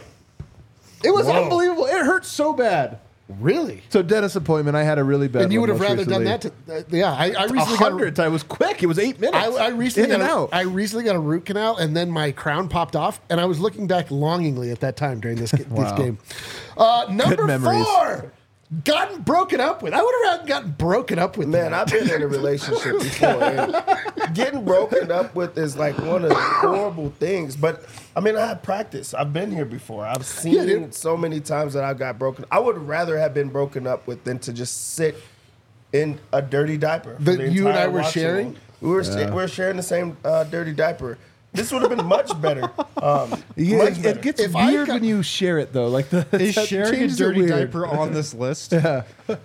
it was Whoa. unbelievable. It hurt so bad. Really? So dentist appointment, I had a really bad. And you one would have most rather recently. done that? To, uh, yeah, I, I A recently got. hundred. I was quick. It was eight minutes. I, I recently in got and a, out. I recently got a root canal, and then my crown popped off, and I was looking back longingly at that time during this this Wow. game. Uh, number memories. four, gotten broken up with. I would have gotten broken up with. Man, tonight. I've been in a relationship before. And getting broken up with is like one of the horrible things. But I mean, I have practice. I've been here before. I've seen Yeah, dude. so many times that I got broken. I would rather have been broken up with than to just sit in a dirty diaper. for That the you and entire I were watching sharing? game. We were sta- we were sharing the same uh, dirty diaper. This would have been much better. Um, Yeah, much it, better. it gets If I weird got- when you share it though. Like the Is that sharing a changes it dirty weird. diaper on this list? Uh,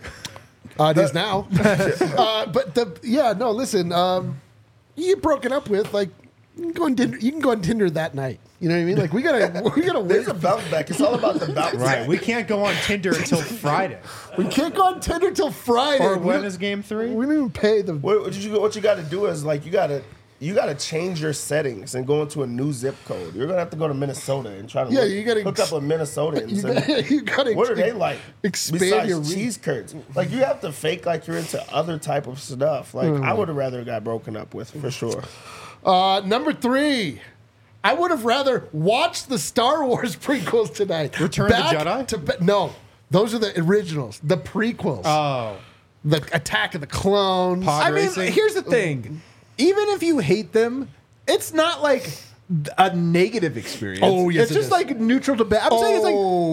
it is now. uh, but the yeah, no, listen. Um, you get broken up with, like you can go on Tinder, you can go on Tinder that night. You know what I mean? Like we gotta we gotta wait. There's a bounce back. It's all about the bounce Right. back. We can't go on Tinder until Friday. We can't go on Tinder till Friday. Or We when don't- is game three? We didn't even pay the. What, what you what you got to do is like you got to you got to change your settings and go into a new zip code. You're gonna have to go to Minnesota and try to Yeah, look, you gotta hook ex- up with Minnesotans. You and gotta, you gotta what are they like? Expand besides your reach. cheese curds. Like you have to fake like you're into other type of stuff. Like Hmm. I would have rather got broken up with for sure. Uh, number three. I would have rather watched the Star Wars prequels tonight. Return of the Back Jedi? To, ba- no, those are the originals. The prequels. Oh. the Attack of the Clones. Pod I mean, racing? here's the thing. Even if you hate them, it's not like a negative experience. Oh, yes, it's it just is. like neutral to bad. I'm saying it's like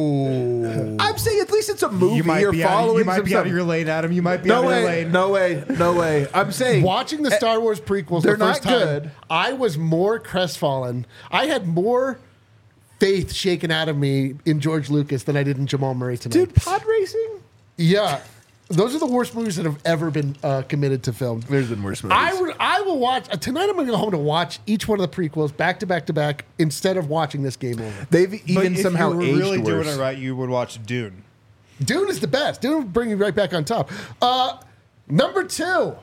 oh. I'm saying at least it's a movie. You might You're be, out, following you might some be out stuff. of your lane, Adam. You might be No out of your way, lane. no way, no way. I'm saying Watching the Star Wars prequels they're the first not time, good. I was more crestfallen. I had more faith shaken out of me in George Lucas than I did in Jamal Murray tonight. dude, pod racing. Yeah. Those are the worst movies that have ever been uh, committed to film. There's been worse movies. I would, I will watch uh, tonight. I'm going to go home to watch each one of the prequels back to back to back instead of watching this game over. They've But even if somehow you were aged really worse. doing it right, you would watch Dune. Dune is the best. Dune will bring you right back on top. Uh, number two.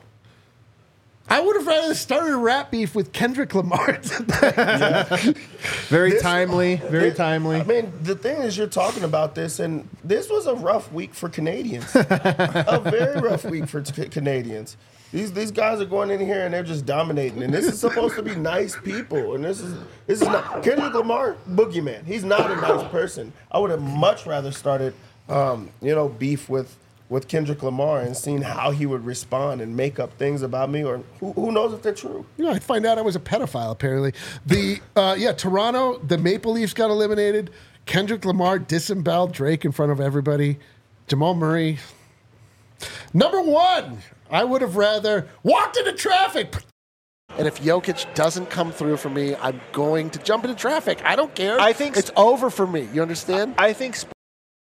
I would have rather started a rap beef with Kendrick Lamar. Very This- timely, very This- timely. I mean, the thing is, you're talking about this, and this was a rough week for Canadians. A very rough week for t- Canadians. These these guys are going in here and they're just dominating, and this is supposed to be nice people, and this is this is not Kendrick Lamar, boogeyman. He's not a nice person. I would have much rather started, um, you know, beef with. with Kendrick Lamar and seen how he would respond and make up things about me, or who, who knows if they're true. You know, I'd find out I was a pedophile, apparently. The, uh, yeah, Toronto, the Maple Leafs got eliminated. Kendrick Lamar disemboweled Drake in front of everybody. Jamal Murray. Number one, I would have rather walked into traffic. And if Jokic doesn't come through for me, I'm going to jump into traffic. I don't care. I think- it's over for me. You understand? I think sp-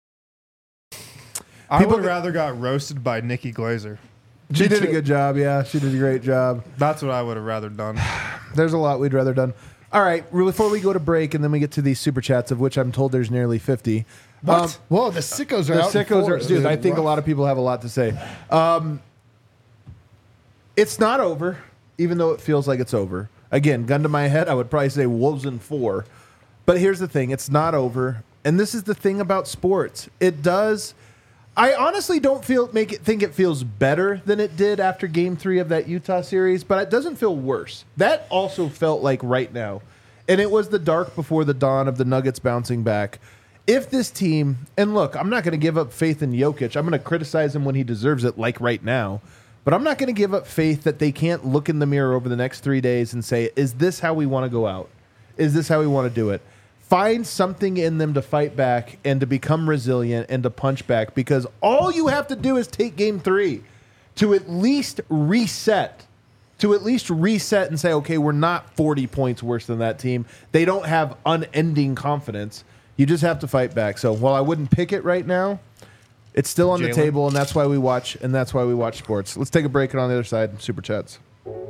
I People would get- rather got roasted by Nikki Glazer. She did a good job. Yeah, she did a great job. That's what I would have rather done. There's a lot we'd rather done. All right, before we go to break and then we get to these super chats, of which I'm told there's nearly fifty. What? Um, Whoa, the sickos are the out. in sickos are, force. dude. I think a lot of people have a lot to say. Um, it's not over, even though it feels like it's over. Again, gun to my head, I would probably say Wolves in four. But here's the thing: it's not over, and this is the thing about sports. It does. I honestly don't feel make it think it feels better than it did after Game Three of that Utah series, but it doesn't feel worse. That also felt like right now, and it was the dark before the dawn of the Nuggets bouncing back. If this team, and look, I'm not going to give up faith in Jokic. I'm going to criticize him when he deserves it, like right now. But I'm not going to give up faith that they can't look in the mirror over the next three days and say, is this how we want to go out? Is this how we want to do it? Find something in them to fight back and to become resilient and to punch back, because all you have to do is take game three to at least reset to at least reset and say, okay, we're not forty points worse than that team. They don't have unending confidence. You just have to fight back. So while I wouldn't pick it right now, it's still on Jalen. the table, and that's why we watch. And that's why we watch sports. Let's take a break, and on the other side, super chats.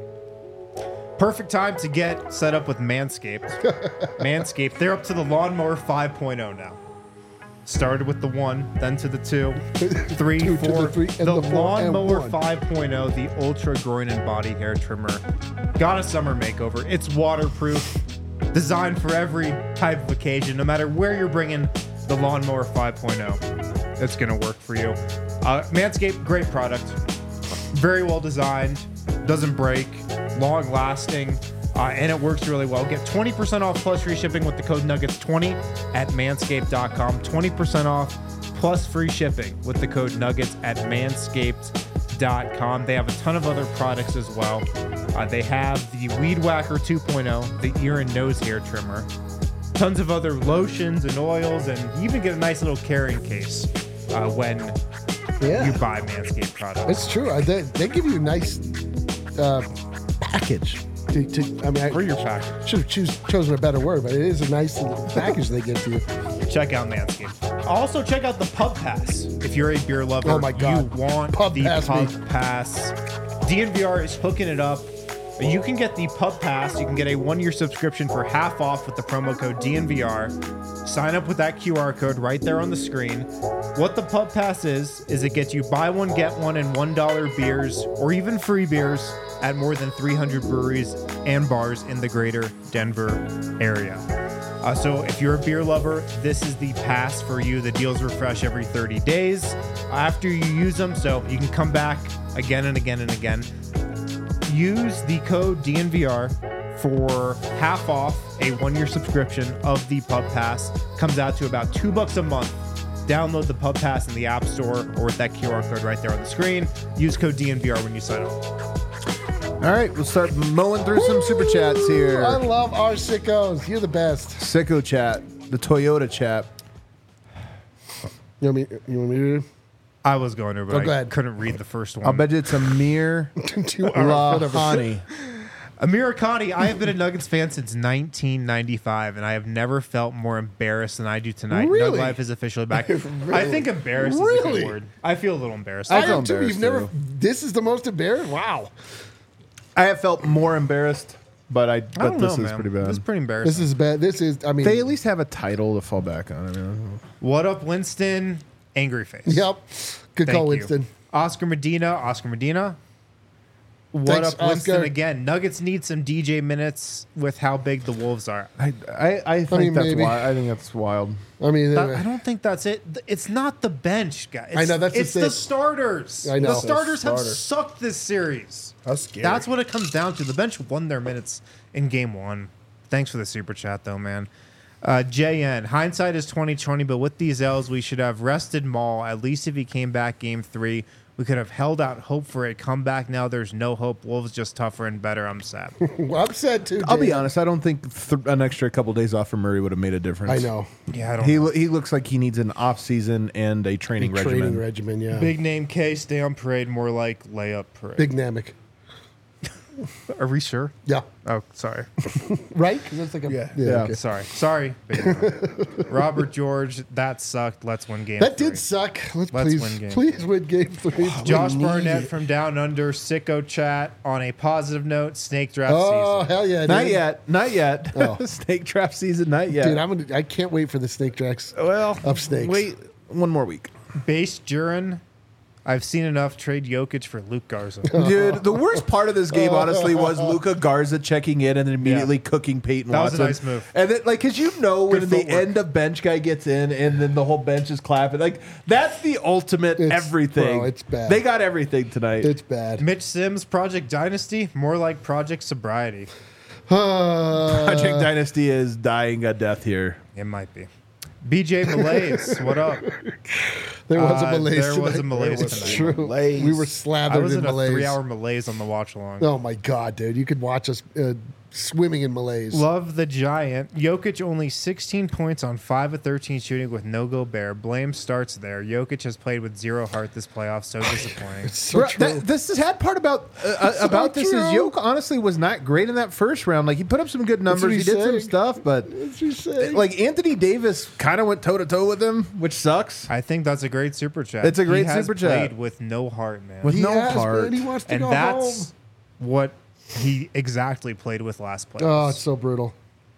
Perfect time to get set up with Manscaped. Manscaped, they're up to the Lawnmower five point oh now. Started with the one, then to the two, three, Two to four. the three, and the the four, and Lawnmower one. five point oh, the Ultra Groin and Body Hair Trimmer. Got a summer makeover. It's waterproof, designed for every type of occasion. No matter where you're bringing the Lawnmower five point oh, it's going to work for you. Uh, Manscaped, great product. Very well designed, doesn't break, long lasting, uh, and it works really well. Get twenty percent off plus free shipping with the code nuggets twenty at manscaped dot com. twenty percent off plus free shipping with the code nuggets at manscaped dot com. They have a ton of other products as well. Uh, they have the Weed Whacker two point oh, the ear and nose hair trimmer, tons of other lotions and oils, and you even get a nice little carrying case uh, when Yeah. you buy Manscaped products. It's true. I- They, they give you a nice uh, package. To, to, I mean, I For your package. should have choose, chosen a better word, but it is a nice little package they give to you. Check out Manscaped. Also, check out the Pub Pass. If you're a beer lover, Oh my God. you want Pub the Pass Pub me. Pass. D N V R is hooking it up. You can get the Pub Pass. You can get a one-year subscription for half off with the promo code D N V R. Sign up with that Q R code right there on the screen. What the Pub Pass is, is it gets you buy one, get one, and one dollar beers, or even free beers at more than three hundred breweries and bars in the greater Denver area. Uh, so if you're a beer lover, this is the pass for you. The deals refresh every thirty days after you use them, so you can come back again and again and again. Use the code D N V R for half off a one-year subscription of the Pub Pass. Comes out to about two bucks a month. Download the Pub Pass in the App Store or with that Q R code right there on the screen. Use code D N V R when you sign up. All right, we'll start mowing through some super chats here. I love our sickos. You're the best. Sicko chat, the Toyota chat. You want me, you want me to I was going to, but Oh, go I ahead. couldn't read the first one. I'll bet you it's Amir do two hours, whatever. Lahani. Amir Khani, I have been a Nuggets fan since nineteen ninety-five, and I have never felt more embarrassed than I do tonight. Really? Nug Life is officially back. I think embarrassed is a Really? good word. I feel a little embarrassed. I I feel am too. embarrassed, You've never. too. This is the most embarrassed. Wow. I have felt more embarrassed, but I I bet don't this know, is man. pretty bad. This is pretty embarrassing. This is bad. This is. I mean. They at least have a title to fall back on. I mean, What up, Winston? Angry face. Yep. Good Thank call, you. Winston. Oscar Medina. Oscar Medina. What Thanks, up, Winston? Oscar. Again, Nuggets need some D J minutes with how big the Wolves are. I I, I think mean, that's maybe. wild. I think that's wild. I mean. That- uh, I don't think that's it. Th- It's not the bench, guys. I know, that's it's the the thing. starters. I know. The starters have Starter. sucked this series. That's scary. That's what it comes down to. The bench won their minutes in game one. Thanks for the super chat, though, man. Uh, J N, hindsight is twenty twenty, but with these L's, we should have rested Maul. At least if he came back game three, we could have held out hope for a comeback. Now there's no hope. Wolves just tougher and better. I'm sad. Well, I'm sad too. I'll be Jay. honest. I don't think th- an extra couple days off for Murray would have made a difference. I know. Yeah, I don't He know. lo- he looks like he needs an off season and a training Big regimen. training regimen. Yeah. Big name K, stay on parade, more like layup parade. Big Namek. Are we sure? Yeah. Oh, sorry. Right? 'Cause that's like a, Yeah. Yeah. okay. Sorry. Sorry. Big name. Robert George, that sucked. Let's win game That three. did suck. Let's, Let's please, win game please win game three. Josh We need Barnett it. from Down Under, Sicko Chat. On a positive note, snake draft Oh season. hell yeah! Not dude. yet. Not yet. Oh. Snake trap season. Not yet. Dude, I'm gonna. I can't wait for the snake tracks. well, of snakes. Wait one more week. Base Duran, I've seen enough. Trade Jokic for Luke Garza. Dude, the worst part of this game, honestly, was Luka Garza checking in and then immediately Yeah. cooking Peyton That was Watson. a nice move. And then, like, because you know when Good the footwork. end of bench guy gets in and then the whole bench is clapping. Like, that's the ultimate It's- everything. bro, it's bad. They got everything tonight. It's bad. Mitch Sims, Project Dynasty, more like Project Sobriety. Uh, Project Dynasty is dying a death here. It might be. B J Malaise, what up? There was a Uh, malaise there was a tonight. malaise There was It's tonight. true. Malaise. We were I slathered was in in a malaise. three-hour malaise on the watch along. Oh my god, dude! You could watch us uh, swimming in malaise. Love the Giant. Jokic only sixteen points on five of thirteen shooting with no Gobert. Blame starts there. Jokic has played with zero heart this playoff. So disappointing. so Bro, true. that, this is sad part about uh, uh, So about this is true. Yoke honestly was not great in that first round. Like he put up some good That's what numbers, he he's did some saying. stuff, but What's he saying? like Anthony Davis kind of went toe to toe with him, which sucks. I think that's a great super chat. It's a great he has super chat. played with no heart, man. With he no has, heart. man. He wants to and go that's home. what he exactly played with last playoffs. Oh, it's so brutal.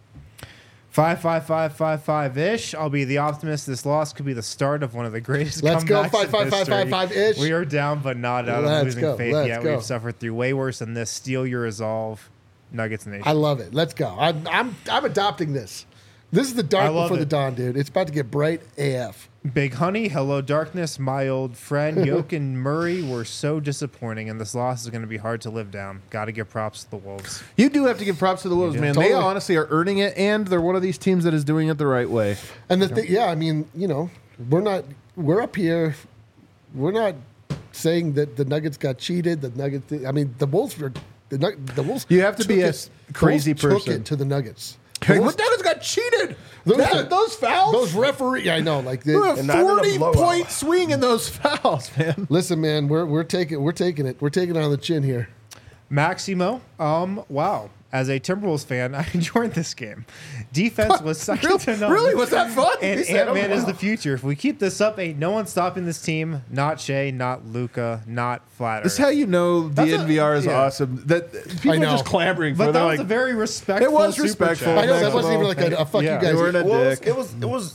Five, five, five, five, five ish. I'll be the optimist. This loss could be the start of one of the greatest Let's go. comebacks Five, in five, five, history. five, five ish. We are down, but not out. Let's I'm losing go. faith Let's yet. go. We've suffered through way worse than this. Steal your resolve, Nuggets Nation. I love it. Let's go. I'm I'm I'm adopting this. This is the dark I love before the it. dawn, dude. It's about to get bright A F. Big Honey, hello darkness, my old friend. Yoke and Murray were so disappointing, and this loss is going to be hard to live down. Got to give props to the Wolves. You do have to give props to the Wolves, do. man. They Totally. honestly are earning it, and they're one of these teams that is doing it the right way. And the thing, yeah, I mean, you know, we're not we're up here. We're not saying that the Nuggets got cheated. The Nuggets. I mean, the Wolves were the Nug- the Wolves. You have to be took a it- s- crazy the Wolves person. Took it to the Nuggets. Hey, The what Wolves- Nuggets got cheated? Those, That- those fouls? Those referee. I know. Like, they, There were And not in a forty blowout. point swing in those fouls, man. listen, man, we're we're taking we're taking it. We're taking it on the chin here. Maximo, um, wow. As a Timberwolves fan, I enjoyed this game. Defense was second Really? to none. Really? Was that fun? And He said, Ant Man oh, is wow. the future. If we keep this up, ain't no one stopping this team. Not Shea, not Luca, not Flat That's Earth. how you know the That's a- N V R is yeah. awesome. That people I are know. just clamoring for. But They're that was like, a very respectful. It was super respectful. chat. I know that Maximo, wasn't even like a, a fuck Yeah. you guys. You weren't a Well, it was, dick. it was it was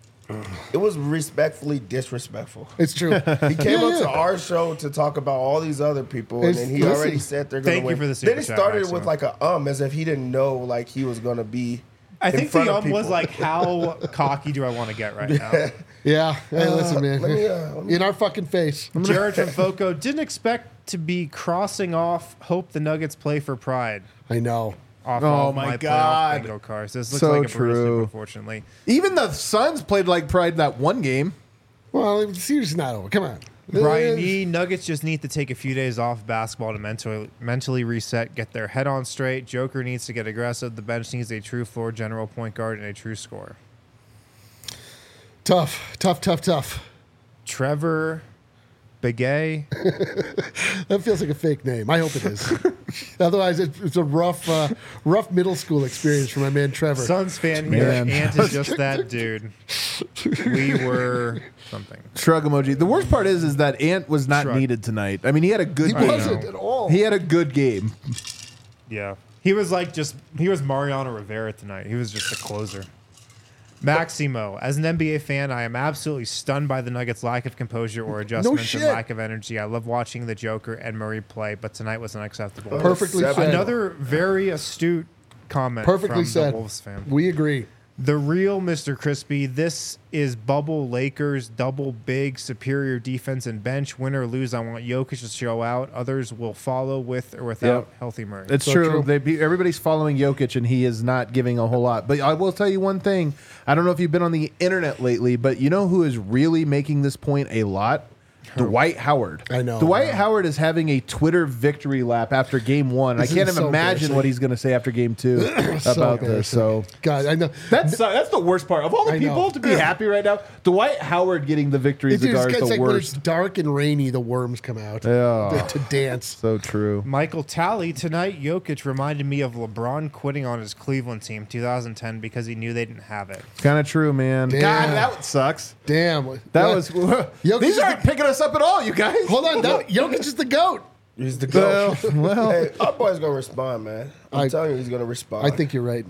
it was respectfully disrespectful. It's true. He came Yeah, up yeah. to our show to talk about all these other people, It's- and then he listen, already said they're going thank to you win. for the super then he chat, started Maximo. with like a um, as if he didn't know like he was going to be. I in think front the of um was people. like, how cocky do I want to get right now? Yeah. Hey, listen, man. let me, uh, let me- In our fucking face. Jared from Foco didn't expect to be crossing off. Hope the Nuggets play for pride. I know. Off Oh all of my my God. playoff bingo cards. This looks So like a Bruce true. loop, unfortunately. Even the Suns played like pride that one game. Well, the series is not over. Come on. Brian Uh, E. Nuggets just need to take a few days off basketball to mentally mentally reset, get their head on straight. Joker needs to get aggressive. The bench needs a true floor general point guard and a true scorer. Tough, tough, tough, tough. Trevor Begay. That feels like a fake name. I hope it is. Otherwise, it's, it's a rough, uh, rough middle school experience for my man Trevor. Suns fan here. Man. Ant is just that dude. We were something. Shrug emoji. The worst part is, is that Ant was not Shrug. needed tonight. I mean, he had a good he game. wasn't know. at all. He had a good game. Yeah. He was like just, he was Mariano Rivera tonight. He was just a closer. Maximo, as an N B A fan, I am absolutely stunned by the Nuggets' lack of composure or adjustments shit. and lack of energy. I love watching the Joker and Murray play, but tonight was unacceptable. Perfectly Seven. said. Another very astute comment Perfectly from said. the Wolves fan. We agree. The real Mister Crispy, this is bubble Lakers, double big, superior defense and bench. Win or lose, I want Jokic to show out. Others will follow with or without Yep. healthy Murray. It's So true. true. They be, everybody's following Jokic, and he is not giving a whole lot. But I will tell you one thing. I don't know if you've been on the internet lately, but you know who is really making this point a lot? Dwight Howard. I know. Dwight Howard is having a Twitter victory lap after game one. This I can't is even so imagine embarrassing. what he's going to say after game two So about this. So God, I know. that's that's the worst part of all the I know. people to be happy right now. Dwight Howard getting the victory It's, cigar it's, is it's the like when it's worst. dark and rainy, the worms come out Yeah. to, to dance. So true. Michael Talley, tonight Jokic reminded me of LeBron quitting on his Cleveland team two thousand ten because he knew they didn't have it. Kind of true, man. Damn. God, that sucks. Damn. That Yeah. was. Jokic These is aren't the- picking us up at all, you guys. Hold on. That, Jokic is the GOAT. He's the goat. Well, well, Hey, our boy's gonna respond, man. I'm I- telling you, he's gonna respond. I think you're right.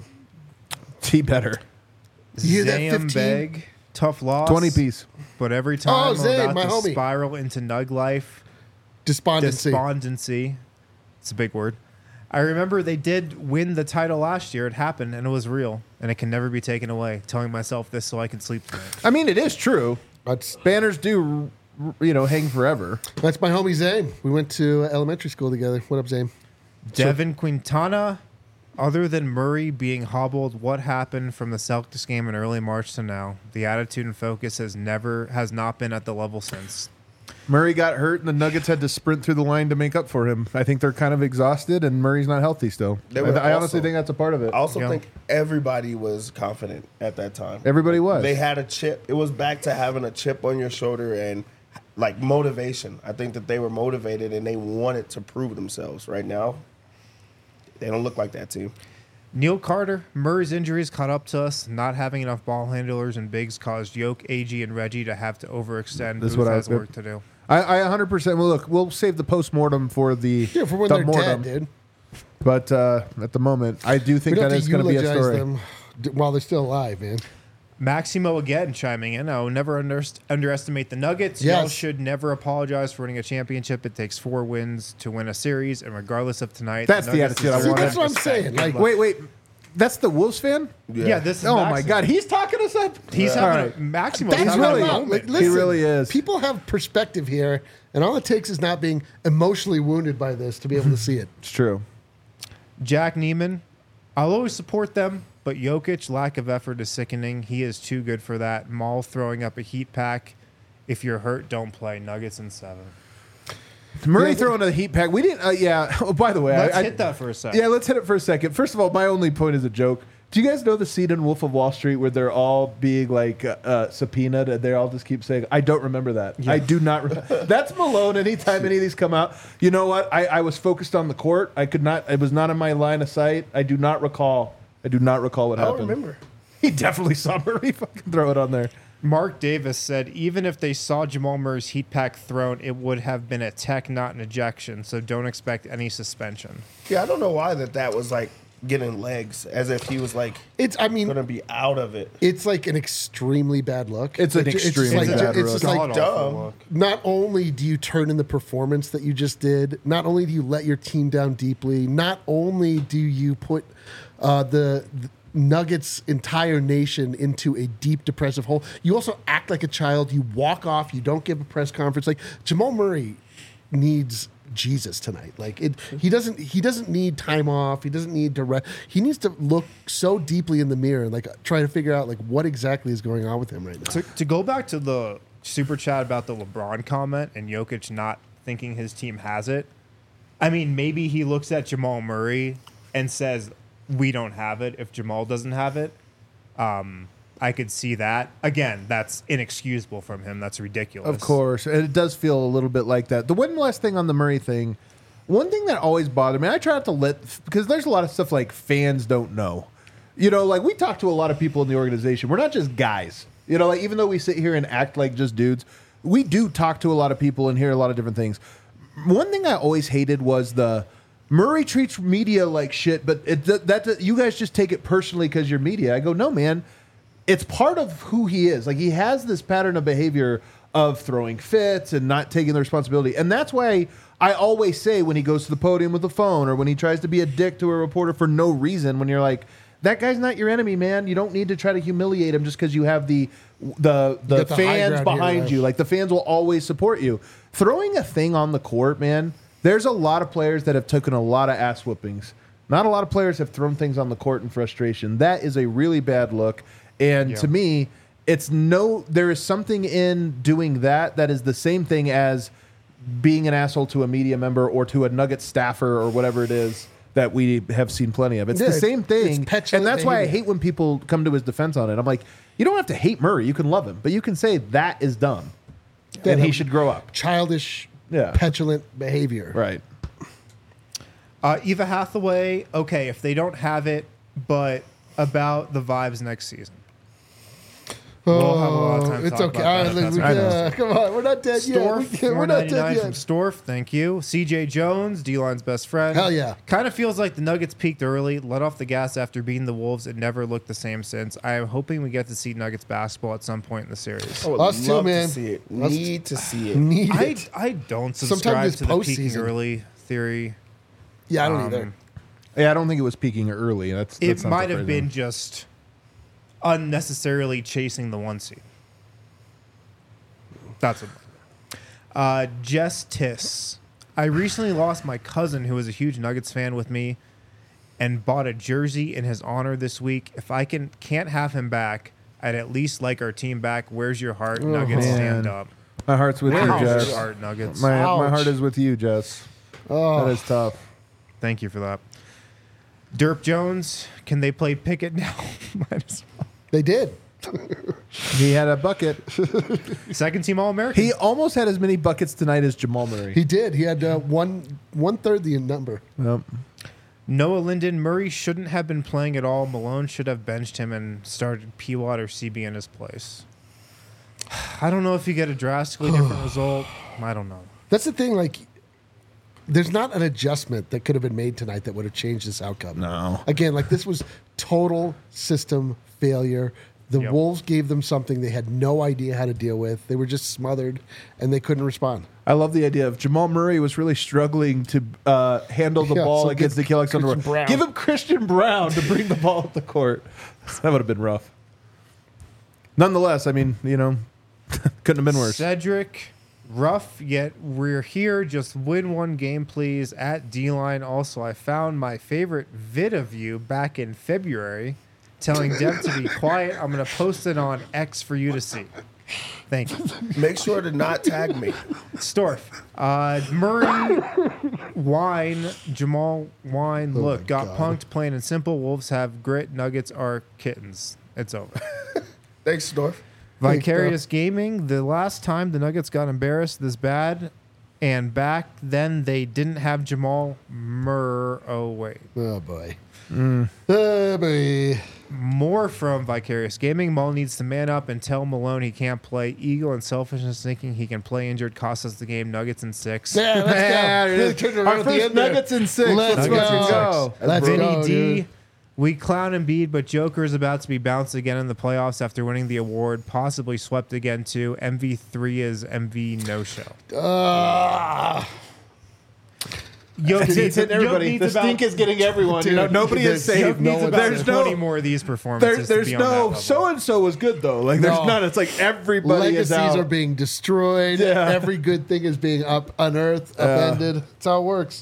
T better. You hear that, Zam fifteen? Beg, tough loss. twenty piece. But every time Oh, I'm Zay, about my to homie. spiral into Nug life, Despondency. despondency. It's a big word. I remember they did win the title last year. It happened, and it was real, and it can never be taken away. Telling myself this so I can sleep tonight. I mean, it is true. That's Banners do, you know, hang forever. that's my homie Zane. We went to elementary school together. What up, Zane? Devin Quintana, Other than Murray being hobbled, what happened from the Celtics game in early March to now? The attitude and focus has never has not been at the level since. Murray got hurt, and the Nuggets had to sprint through the line to make up for him. I think they're kind of exhausted, and Murray's not healthy still. They I, were I honestly also- think that's a part of it. I also Yeah. think everybody was confident at that time. Everybody was. They had a chip. It was back to having a chip on your shoulder and like motivation. I think that they were motivated and they wanted to prove themselves. Right now, they don't look like that team. Neil Carter, Murray's injuries caught up to us. Not having enough ball handlers and bigs caused Yoke, A G, and Reggie to have to overextend. That's Booth what I has was- work to do. I, I one hundred percent. Well, look, we'll save the post-mortem for the Yeah, for when the they're mortem. dead, dude. But uh, at the moment, I do We think don't that have is to going to be a eulogize story. them d- while they're still alive, man. Maximo again chiming in. I will never under- underestimate the Nuggets. Y'all Yes. should never apologize for winning a championship. It takes four wins to win a series, and regardless of tonight, That's the Nuggets attitude I deserve See, want. that's what I'm respect. saying. Good Like, luck. Wait, wait. That's the Wolves fan? yeah, this is Oh, my Maximo. God. He's talking us up? He's All having right. a Maximo's That's having what really- a I'm about. moment. Like, listen, really is. People have perspective here, and all it takes is not being emotionally wounded by this to be able to see it. It's true. Jack Neiman, I'll always support them, but Jokic, lack of effort is sickening. He is too good for that. Maul throwing up a heat pack. If you're hurt, don't play. Nuggets in seven. Murray Yeah, throwing a heat pack. We didn't. Uh, yeah. Oh, by the way, Let's I, I- hit that for a second. Yeah, let's hit it for a second. First of all, my only point is a joke. Do you guys know the scene in Wolf of Wall Street where they're all being like uh, uh, subpoenaed and they all just keep saying, "I don't remember that. I do not." Re-. That's Malone. Anytime any of these come out, you know what? I, I was focused on the court. I could not. It was not in my line of sight. I do not recall. I do not recall what I don't happened. remember. He definitely saw Murray fucking throw it on there. Mark Davis said, even if they saw Jamal Murray's heat pack thrown, it would have been a tech, not an ejection. So don't expect any suspension. Yeah, I don't know why that that was like getting legs, as if he was like It's, I mean, gonna be out of it. it's like an extremely bad look. It's an Like, just extremely like- bad It's just look. like, God-awful dumb. look. not only do you turn in the performance that you just did, not only do you let your team down deeply, not only do you put uh, the, the Nuggets' entire nation into a deep depressive hole, you also act like a child. You walk off. You don't give a press conference. Like Jamal Murray needs Jesus tonight. Like it, he doesn't. He doesn't need time off. He doesn't need to rest. He needs to look so deeply in the mirror and like try to figure out like what exactly is going on with him right now. To, to go back to the super chat about the LeBron comment and Jokic not thinking his team has it, I mean, maybe he looks at Jamal Murray and says, we don't have it if Jamal doesn't have it. Um, I could see that. Again, that's inexcusable from him. That's ridiculous. Of course. And it does feel a little bit like that. The one last thing on the Murray thing, one thing that always bothered me, I try not to let, because there's a lot of stuff like fans don't know. You know, like we talk to a lot of people in the organization. We're not just guys. You know, like even though we sit here and act like just dudes, we do talk to a lot of people and hear a lot of different things. One thing I always hated was the Murray treats media like shit, but it, that, that you guys just take it personally because you're media. I go, no, man. It's part of who he is. Like he has this pattern of behavior of throwing fits and not taking the responsibility. And that's why I always say when he goes to the podium with the phone or when he tries to be a dick to a reporter for no reason, when you're like, that guy's not your enemy, man. You don't need to try to humiliate him just because you have the the the got the high fans ground here, behind right? you. Like the fans will always support you. Throwing a thing on the court, man, there's a lot of players that have taken a lot of ass whoopings. Not a lot of players have thrown things on the court in frustration. That is a really bad look. And Yeah. to me, it's no, there is something in doing that that is the same thing as being an asshole to a media member or to a Nugget staffer or whatever it is that we have seen plenty of. It's Yeah, the same it's thing. petulant And that's why I behavior. hate when people come to his defense on it. I'm like, you don't have to hate Murray. You can love him, but you can say that is dumb. And he should grow up. Childish, Yeah. petulant behavior. Right. Uh, Eva Hathaway, okay, if they don't have it, but about the vibes next season. We'll have a lot of time to Oh, it's talk okay. about All that. right, That's we- I know. yeah, come on, we're not dead yet. We Storf, can't- We're not dead four ninety-nine from yet. Storf, thank you. C J Jones, D-line's best friend. Hell yeah. Kind of feels like the Nuggets peaked early, let off the gas after beating the Wolves, and never looked the same since. I am hoping we get to see Nuggets basketball at some point in the series. I would Us too, love man. to see it. Us Need to see it. Need I, it. I don't Sometimes subscribe it's to the peaking postseason. early theory. Yeah, I don't Um, either. Yeah, I don't think it was peaking early. That's, It that's not the might have phrase. been just unnecessarily chasing the one seed. That's what. Uh, Jess Tiss. I recently lost my cousin who was a huge Nuggets fan with me and bought a jersey in his honor this week. If I can can't have him back, I'd at least like our team back. Where's your heart? Nuggets, man. stand up. My heart's with Where's you, your Jess. heart, Nuggets? My, my Ouch. heart is with you, Jess. Oh. That is tough. Thank you for that. Derp Jones, can they play Pickett now? Might as well. They did. He had a bucket. Second team All American. He almost had as many buckets tonight as Jamal Murray. He did. He had uh, one one third the number. Yep. Noah Linden, Murray shouldn't have been playing at all. Malone should have benched him and started P. Watt or C B in his place. I don't know if you get a drastically different result. I don't know. That's the thing. Like, there's not an adjustment that could have been made tonight that would have changed this outcome. No. Again, like this was total system failure. The Yep. Wolves gave them something they had no idea how to deal with. They were just smothered, and they couldn't respond. I love the idea of Jamal Murray was really struggling to uh, handle the Yeah, ball so against give Nickeil Alexander. Christian Brown. Give him Christian Brown to bring the ball up the court. That would have been rough. Nonetheless, I mean, you know, couldn't have been worse. Cedric, rough, yet we're here. Just win one game, please, at D-Line. Also, I found my favorite vid of you back in February telling Deb to be quiet. I'm going to post it on X for you to see. Thank you. Make sure to not tag me. Storf. Uh, Murray, Wine, Jamal, Wine. Oh Look, my got God. punked, plain and simple. Wolves have grit. Nuggets are kittens. It's over. Thanks, Storf. Vicarious Gaming. The last time the Nuggets got embarrassed this bad, and back then they didn't have Jamal Murray. Oh, wait. Oh boy. Oh boy. More from Vicarious Gaming. Mull needs to man up and tell Malone he can't play. Ego and selfishness thinking he can play injured cost us the game. Nuggets in six. Yeah, let's Yeah, go. it Really is. turned it around Our at the first end there. Nuggets in six. Let's Let's Nuggets in go. six. Let's Vinny go, D. dude. We clown Embiid, but Joker is about to be bounced again in the playoffs after winning the award, possibly swept again too. M V three is M V no show. Ah. Yoke It's, it's hitting everybody. The stink is getting everyone. you know, Dude, nobody is there's- safe. no needs one's about there's twenty no, more of these there, performances. there's to be on that no. level. So and so was good though. Like there's No. none. It's like everybody is Legacies out. are being destroyed. Yeah. Every good thing is being up unearthed, upended. That's how it works.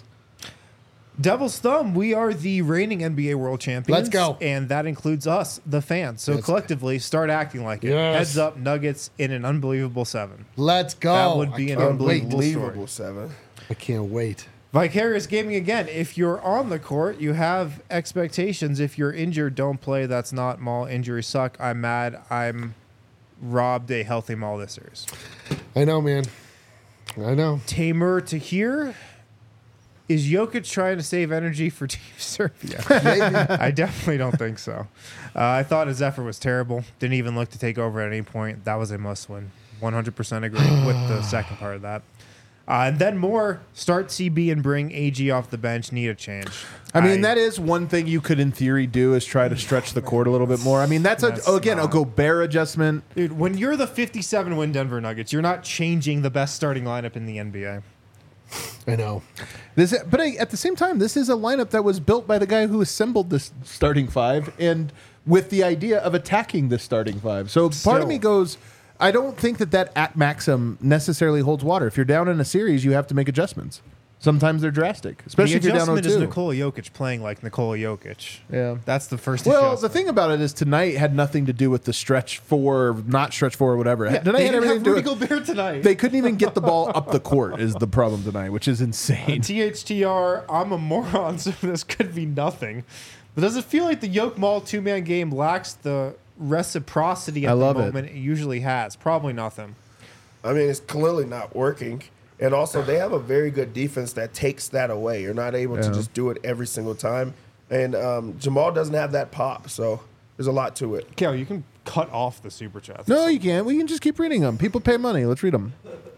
Devil's Thumb, we are the reigning N B A world champions. Let's go. And that includes us, the fans. So Yes. collectively, start acting like it. Yes. Heads up, Nuggets in an unbelievable seven. Let's go. That would be I an can't unbelievable wait. story. Unbelievable seven. I can't wait. Vicarious Gaming again. If you're on the court, you have expectations. If you're injured, don't play. That's not Maul. Injuries suck. I'm mad. I'm robbed a healthy Maul this series. I know, man. I know. Tamer to here. Is Jokic trying to save energy for Team Serbia? Maybe. I definitely don't think so. Uh, I thought his effort was terrible. Didn't even look to take over at any point. That was a must win. one hundred percent agree with the second part of that. Uh, and then more, start C B and bring A G off the bench. Need a change. I mean, that is one thing you could, in theory, do is try to stretch the court a little bit more. I mean, that's, That's a again a not- Gobert adjustment. Dude, when you're the fifty-seven win Denver Nuggets, you're not changing the best starting lineup in the N B A. I know. This, but at the same time, this is a lineup that was built by the guy who assembled this starting five, and with the idea of attacking the starting five. So part Still. of me goes, I don't think that that at maxim necessarily holds water. If you're down in a series, you have to make adjustments. Sometimes they're drastic, especially The if you're down adjustment is oh two. Nikola Jokic playing like Nikola Jokic. Yeah. That's the first Well, adjustment. the thing about it is tonight had nothing to do with the stretch four, not stretch four, or whatever. tonight they had didn't everything have to do Rudy with Gobert tonight. they couldn't even get the ball up the court is the problem tonight, which is insane. T H T R, I'm a moron, so this could be nothing. But does it feel like the Yoke Mall two-man game lacks the reciprocity at I the love it. moment it. usually has? Probably nothing. I mean, it's clearly not working. And also, they have a very good defense that takes that away. You're not able to Yeah. just do it every single time. And um, Jamal doesn't have that pop, so there's a lot to it. Cal, you can cut off the super chats. No, you can't. We can just keep reading them. People pay money. Let's read them.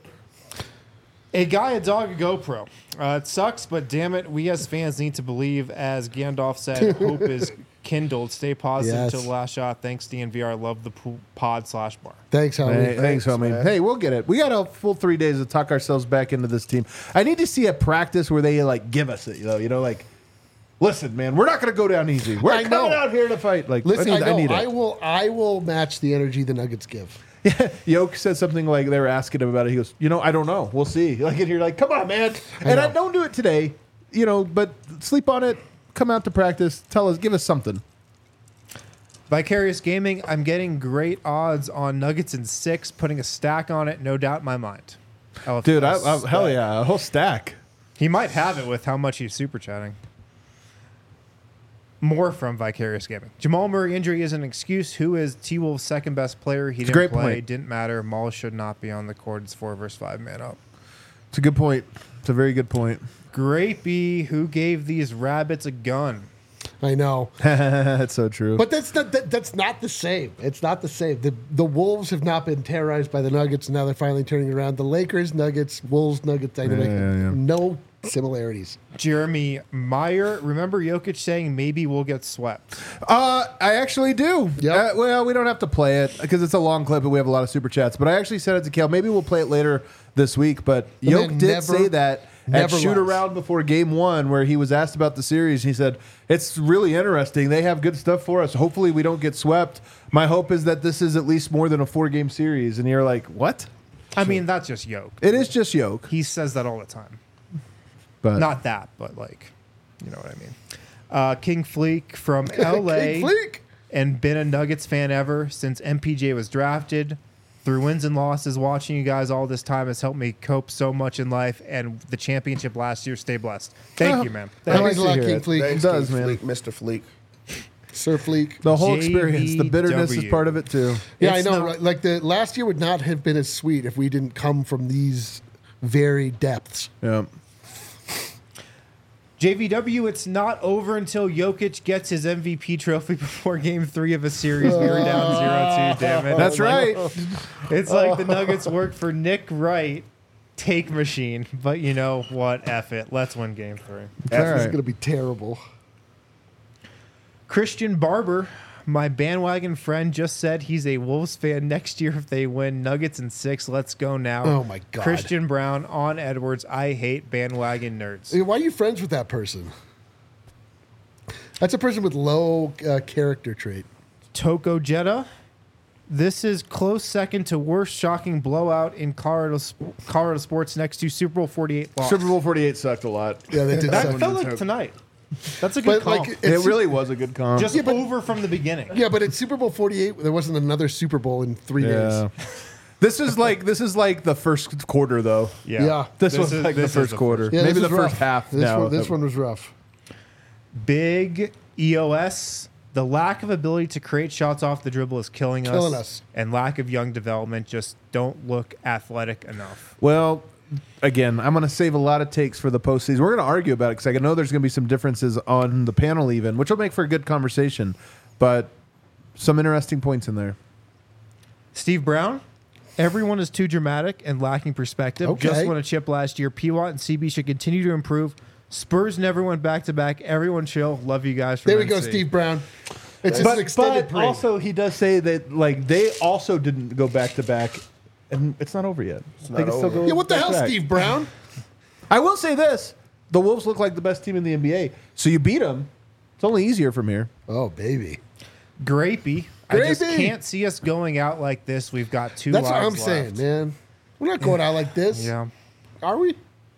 A guy, a dog, a GoPro. Uh, it sucks, but damn it, we as fans need to believe. As Gandalf said, hope is kindled. Stay positive Yes. till the last shot. Thanks, D N V R. Love the po- pod slash bar. Thanks, homie. Hey, thanks, homie. man. Hey, we'll get it. We got a full three days to talk ourselves back into this team. I need to see a practice where they like give us it. You know, you know, like, listen, man, we're not going to go down easy. We're I coming know. out here to fight. Like, Listen, I, I need, know. I need I it. will. I will match the energy the Nuggets give. Yoke said something like they were asking him about it. He goes, you know, I don't know. We'll see. Like, and you're like, come on, man. And I know. don't do it today, you know, but sleep on it. come out to practice. Tell us, give us something. Vicarious Gaming, I'm getting great odds on Nuggets in six, putting a stack on it, no doubt in my mind. L F Dude, I, S. I, hell yeah, a whole stack. He might have it with how much he's super chatting. More from Vicarious Gaming. Jamal Murray injury is an excuse. Who is T-Wolves' second best player? He It's a didn't great play. point. Didn't matter. Maul should not be on the court. It's four versus five man up. It's a good point. It's a very good point. Grapey, who gave these rabbits a gun? I know. That's so true. But that's not that, that's not the same. It's not the same. The the Wolves have not been terrorized by the Nuggets, and now they're finally turning around. The Lakers, Nuggets, Wolves, Nuggets dynamic. Yeah, yeah, yeah. No similarities. Jeremy Meyer, remember Jokic saying maybe we'll get swept? Uh, I actually do. Yep. Uh, well, we don't have to play it because it's a long clip and we have a lot of super chats. But I actually said it to Kale. Maybe we'll play it later this week. But The Yoke man did never- say that at never shoot lies. around before game one, where he was asked about the series. He said it's really interesting. They have good stuff for us. Hopefully, we don't get swept. My hope is that this is at least more than a four game series. And you're like, what? I mean, that's just Yoke. It is just Yoke. He says that all the time. But Not that, but like, you know what I mean. Uh, King Fleek from L A. King Fleek. And been a Nuggets fan ever since M P J was drafted. Through wins and losses, watching you guys all this time has helped me cope so much in life. And the championship last year, stay blessed. Thank Oh, you, man. I That like means a to lot, hear King it. Fleek. It does, King man. Fleek, Mister Fleek. Sir Fleek. The whole J V experience, the bitterness is W. part of it too. Yeah, It's I know. not- right? Like the last year would not have been as sweet if we didn't come from these very depths. Yeah. J V W, it's not over until Jokic gets his M V P trophy before game three of a series. We were down zero two, damn it. That's Like- right. It's like the Nuggets worked for Nick Wright, take machine. But you know what? F it. Let's win game three. This all is right. going to be terrible. Christian Barber, my bandwagon friend, just said he's a Wolves fan next year if they win. Nuggets in six. Let's go now. Oh, my God. Christian Brown on Edwards. I hate bandwagon nerds. Why are you friends with that person? That's a person with low uh, character trait. Toko Jetta. This is close second to worst shocking blowout in Colorado, Colorado sports next to Super Bowl forty-eight loss. Super Bowl forty-eight sucked a lot. Yeah, they did That suck. felt like tonight. That's a good But call. like, It it's- really was a good comp. Just Yeah, but- over from the beginning. Yeah, but at Super Bowl forty-eight, there wasn't another Super Bowl in three Yeah. days. This is like this is like the first quarter though. Yeah. This, This was is- like this the is first quarter. Yeah, Maybe this the was first rough. half. This, now. one, this one was rough. Big E O S. The lack of ability to create shots off the dribble is killing us. Killing us. And lack of young development just don't look athletic enough. Well, again, I'm going to save a lot of takes for the postseason. We're going to argue about it because I know there's going to be some differences on the panel even, which will make for a good conversation. But some interesting points in there. Steve Brown. Everyone is too dramatic and lacking perspective. Okay. Just won a chip last year. P Watt and C B should continue to improve. Spurs never went back to back. Everyone chill. Love you guys. From There we go, N C. Steve Brown. It's just But, an extended but parade. also, he does say that like they also didn't go back to back, and it's not over yet. They not can still over. go yeah, what the back hell, to back. Steve Brown? I will say this: the Wolves look like the best team in the N B A. So you beat them. It's only easier from here. Oh, baby. Grapey. I just Grapey. can't see us going out like this. We've got two That's what lives I'm left. saying, man. We're not going out like this. Yeah. Are we?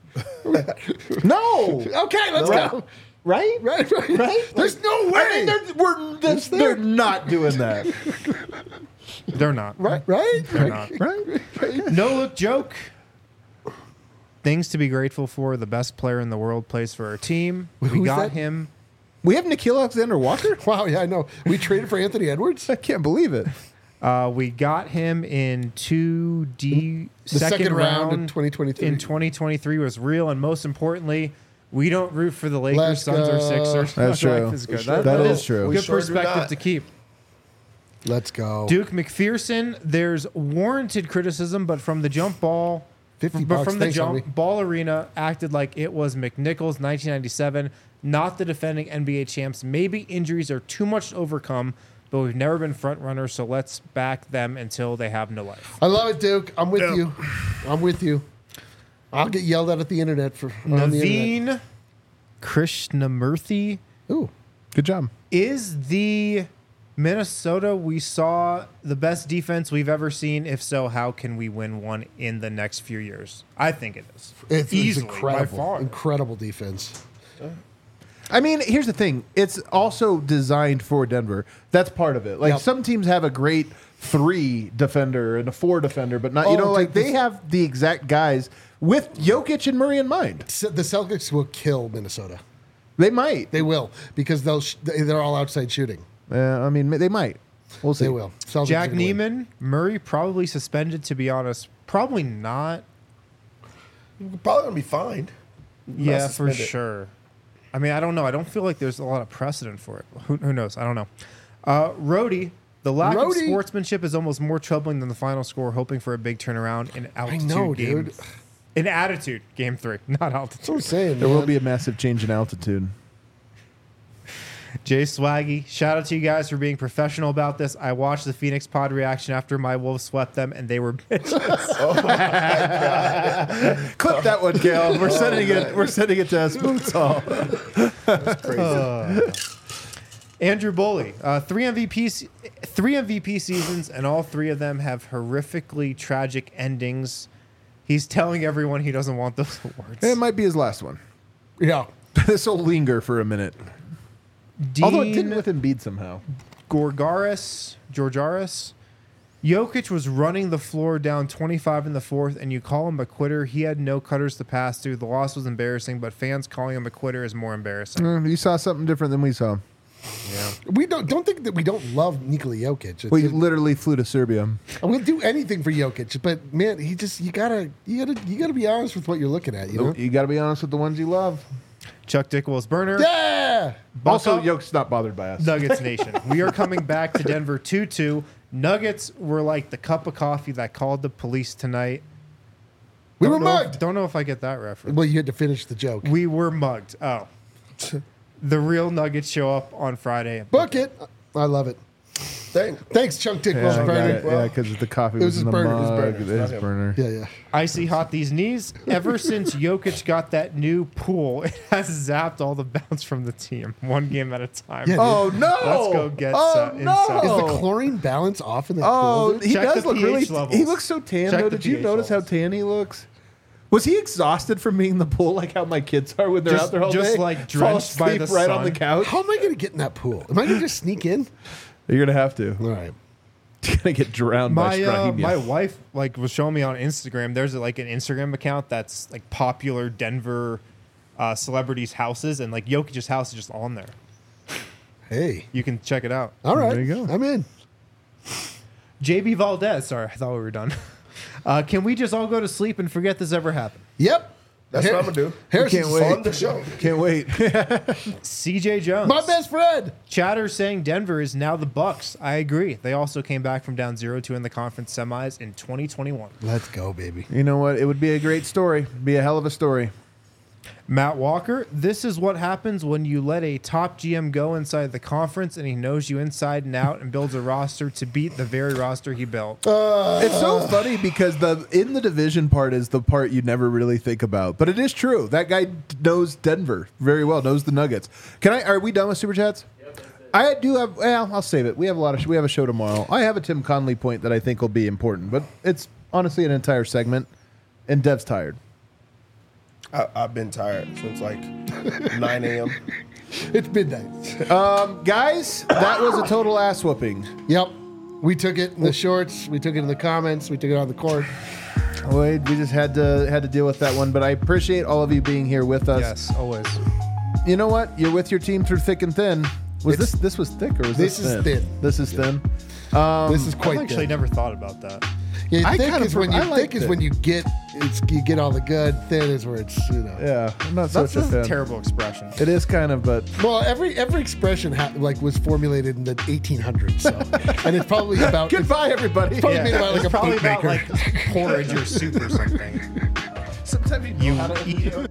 No, Okay, let's Right. go. right? Right, right. Right? There's no way. I mean, they're, we're, that's, there? they're not doing that. They're not. right, right? They're not. Right? No look joke. Things to be grateful for. The best player in the world plays for our team. We Who's got that? him. We have Nikhil Alexander Walker? Wow, yeah, I know. We traded for Anthony Edwards. I can't believe it. Uh, we got him in two D The second round in twenty twenty-three. in twenty twenty-three was real, and most importantly, we don't root for the Lakers, Let's Suns, or go. Sixers. That's Life true. is good. We sure That, That that is is true. We Good sure do perspective not. to keep. Let's go. Duke McPherson, there's warranted criticism, but from the jump ball, fifty but bucks. from the Thanks, jump homie. ball arena, acted like it was McNichols nineteen ninety-seven, not the defending N B A champs. Maybe injuries are too much to overcome, but we've never been front runners, so let's back them until they have no life. I love it, Duke. I'm with you. I'm with you. I'll get yelled at at the internet for on the internet. Naveen Krishnamurthy. Ooh, Good job. Is the Minnesota we saw the best defense we've ever seen? If so, how can we win one in the next few years? I think it is. it's, it's Easily, by incredible. far. Incredible defense. I mean, here's the thing. It's also designed for Denver. That's part of it. Like Yep. some teams have a great three defender and a four defender, but not, you Oh, know, dude, like they this- have the exact guys with Jokic and Murray in mind. Se- The Celtics will kill Minnesota. They might. They will because they'll sh- they're all outside shooting. Uh, I mean, they might. We'll see. They will. Celtics Jack are gonna win. Neiman, Murray probably suspended. To be honest, probably not. Probably gonna be fine. Yeah, for suspended. sure. I mean, I don't know. I don't feel like there's a lot of precedent for it. Who, who knows? I don't know. Uh, Rhodey, the lack of Rhodey. sportsmanship is almost more troubling than the final score. Hoping for a big turnaround in altitude know, game. dude. In attitude, game three, not That's altitude. what I'm saying. There will man. be a massive change in altitude. Jay Swaggy, shout out to you guys for being professional about this. I watched the Phoenix Pod reaction after my Wolves swept them, and they were bitches. Clip that one, Gail. We're sending it. We're sending it to Smooth Hall. Andrew Boley, uh, three M V P, se- three M V P seasons, and all three of them have horrifically tragic endings. He's telling everyone he doesn't want those awards. It might be his last one. Yeah. This will linger for a minute. Dean Although it didn't with Embiid somehow. Gorgaris, Georgaris, Jokic was running the floor down twenty-five in the fourth, and you call him a quitter. He had no cutters to pass to. The loss was embarrassing, but fans calling him a quitter is more embarrassing. Mm, you saw something different than we saw. We don't don't think that we don't love Nikola Jokic. It's, We literally flew to Serbia. we'll do anything for Jokic, but man, he just you gotta you gotta you gotta be honest with what you're looking at. You know? You got to be honest with the ones you love. Chuck Dickwell's burner. Yeah. Also, Buck up. Yoke's not bothered by us. Nuggets Nation. We are coming back to Denver two two. Nuggets were like the cup of coffee that called the police tonight. We Don't were know if- mugged. don't know if I get that reference. Well, you had to finish the joke. We were mugged. Oh. The real Nuggets show up on Friday. Book it. I love it. Thank. Thanks, Chunk Dick. Yeah, Wells I got burner. it. Yeah, because the coffee It was, was in his the burner, his mug. burner. It It's is not him. burner. Yeah, yeah. Icy hot these knees. Ever since Jokic got that new pool, it has zapped all the bounce from the team, one game at a time. Yeah, Oh no! Let's go get, Oh uh, no! inside. Is the chlorine balance off in that Oh, pool? dude? he Check does the look pH really. levels. He looks so tan. Check Though, the did you pH notice levels. how tan he looks? Was he exhausted from being in the pool, like how my kids are when they're Just- out there all just, day? like, Fall drenched by asleep the right on the sun. couch. How am I going to get in that pool? Am I going to just sneak in? You're gonna have to. All right. You're gonna get drowned by My uh, Strahinja. my wife like was showing me on Instagram. There's like an Instagram account that's like popular Denver uh, celebrities' houses, and like Jokic's house is just on there. Hey. You can check it out. All right. There you go. I'm in. J B Valdez. Sorry, I thought we were done. Uh, can we just all go to sleep and forget this ever happened? Yep. That's Har- what I'm gonna do. Harrison's Can't wait. On the show. Can't wait. C J Jones. My best friend. Chatter saying Denver is now the Bucks. I agree. They also came back from down zero two in the conference semis in twenty twenty-one. Let's go, baby. You know what? It would be a great story. Be a hell of a story. Matt Walker, this is what happens when you let a top G M go inside the conference and he knows you inside and out and builds a roster to beat the very roster he built. It's so funny because the in the division part is the part you never really think about, but it is true. That guy knows Denver very well, knows the Nuggets. Can I? Are we done with super chats? I do have. Well, I'll save it. We have a lot of. We have a show tomorrow. I have a Tim Conley point that I think will be important, but it's honestly an entire segment, and Dev's tired. I, I've been tired since like nine a.m. It's midnight. Guys, that was a total ass whooping. Yep. We took it in the shorts. We took it in the comments. We took it on the court. We we just had to had to deal with that one, but I appreciate all of you being here with us. Yes, always. You know what? You're with your team through thick and thin. Was It's- this this was thick or was this, This is thin? thin. This is thin. this is I've quite actually thin. never thought about that. Yeah, I thick kind is of- when you I thick liked is it. when you get it's you get all the good. Thin is where it's you know. Yeah, I'm not That's, such a that's fan. a terrible expression. It is kind of, but Well, every every expression ha- like was formulated in the eighteen hundreds, so and it's probably about goodbye, everybody. probably made about like it's a probably boot about maker. like porridge or soup or something. Sometimes you, You know how to- eat it.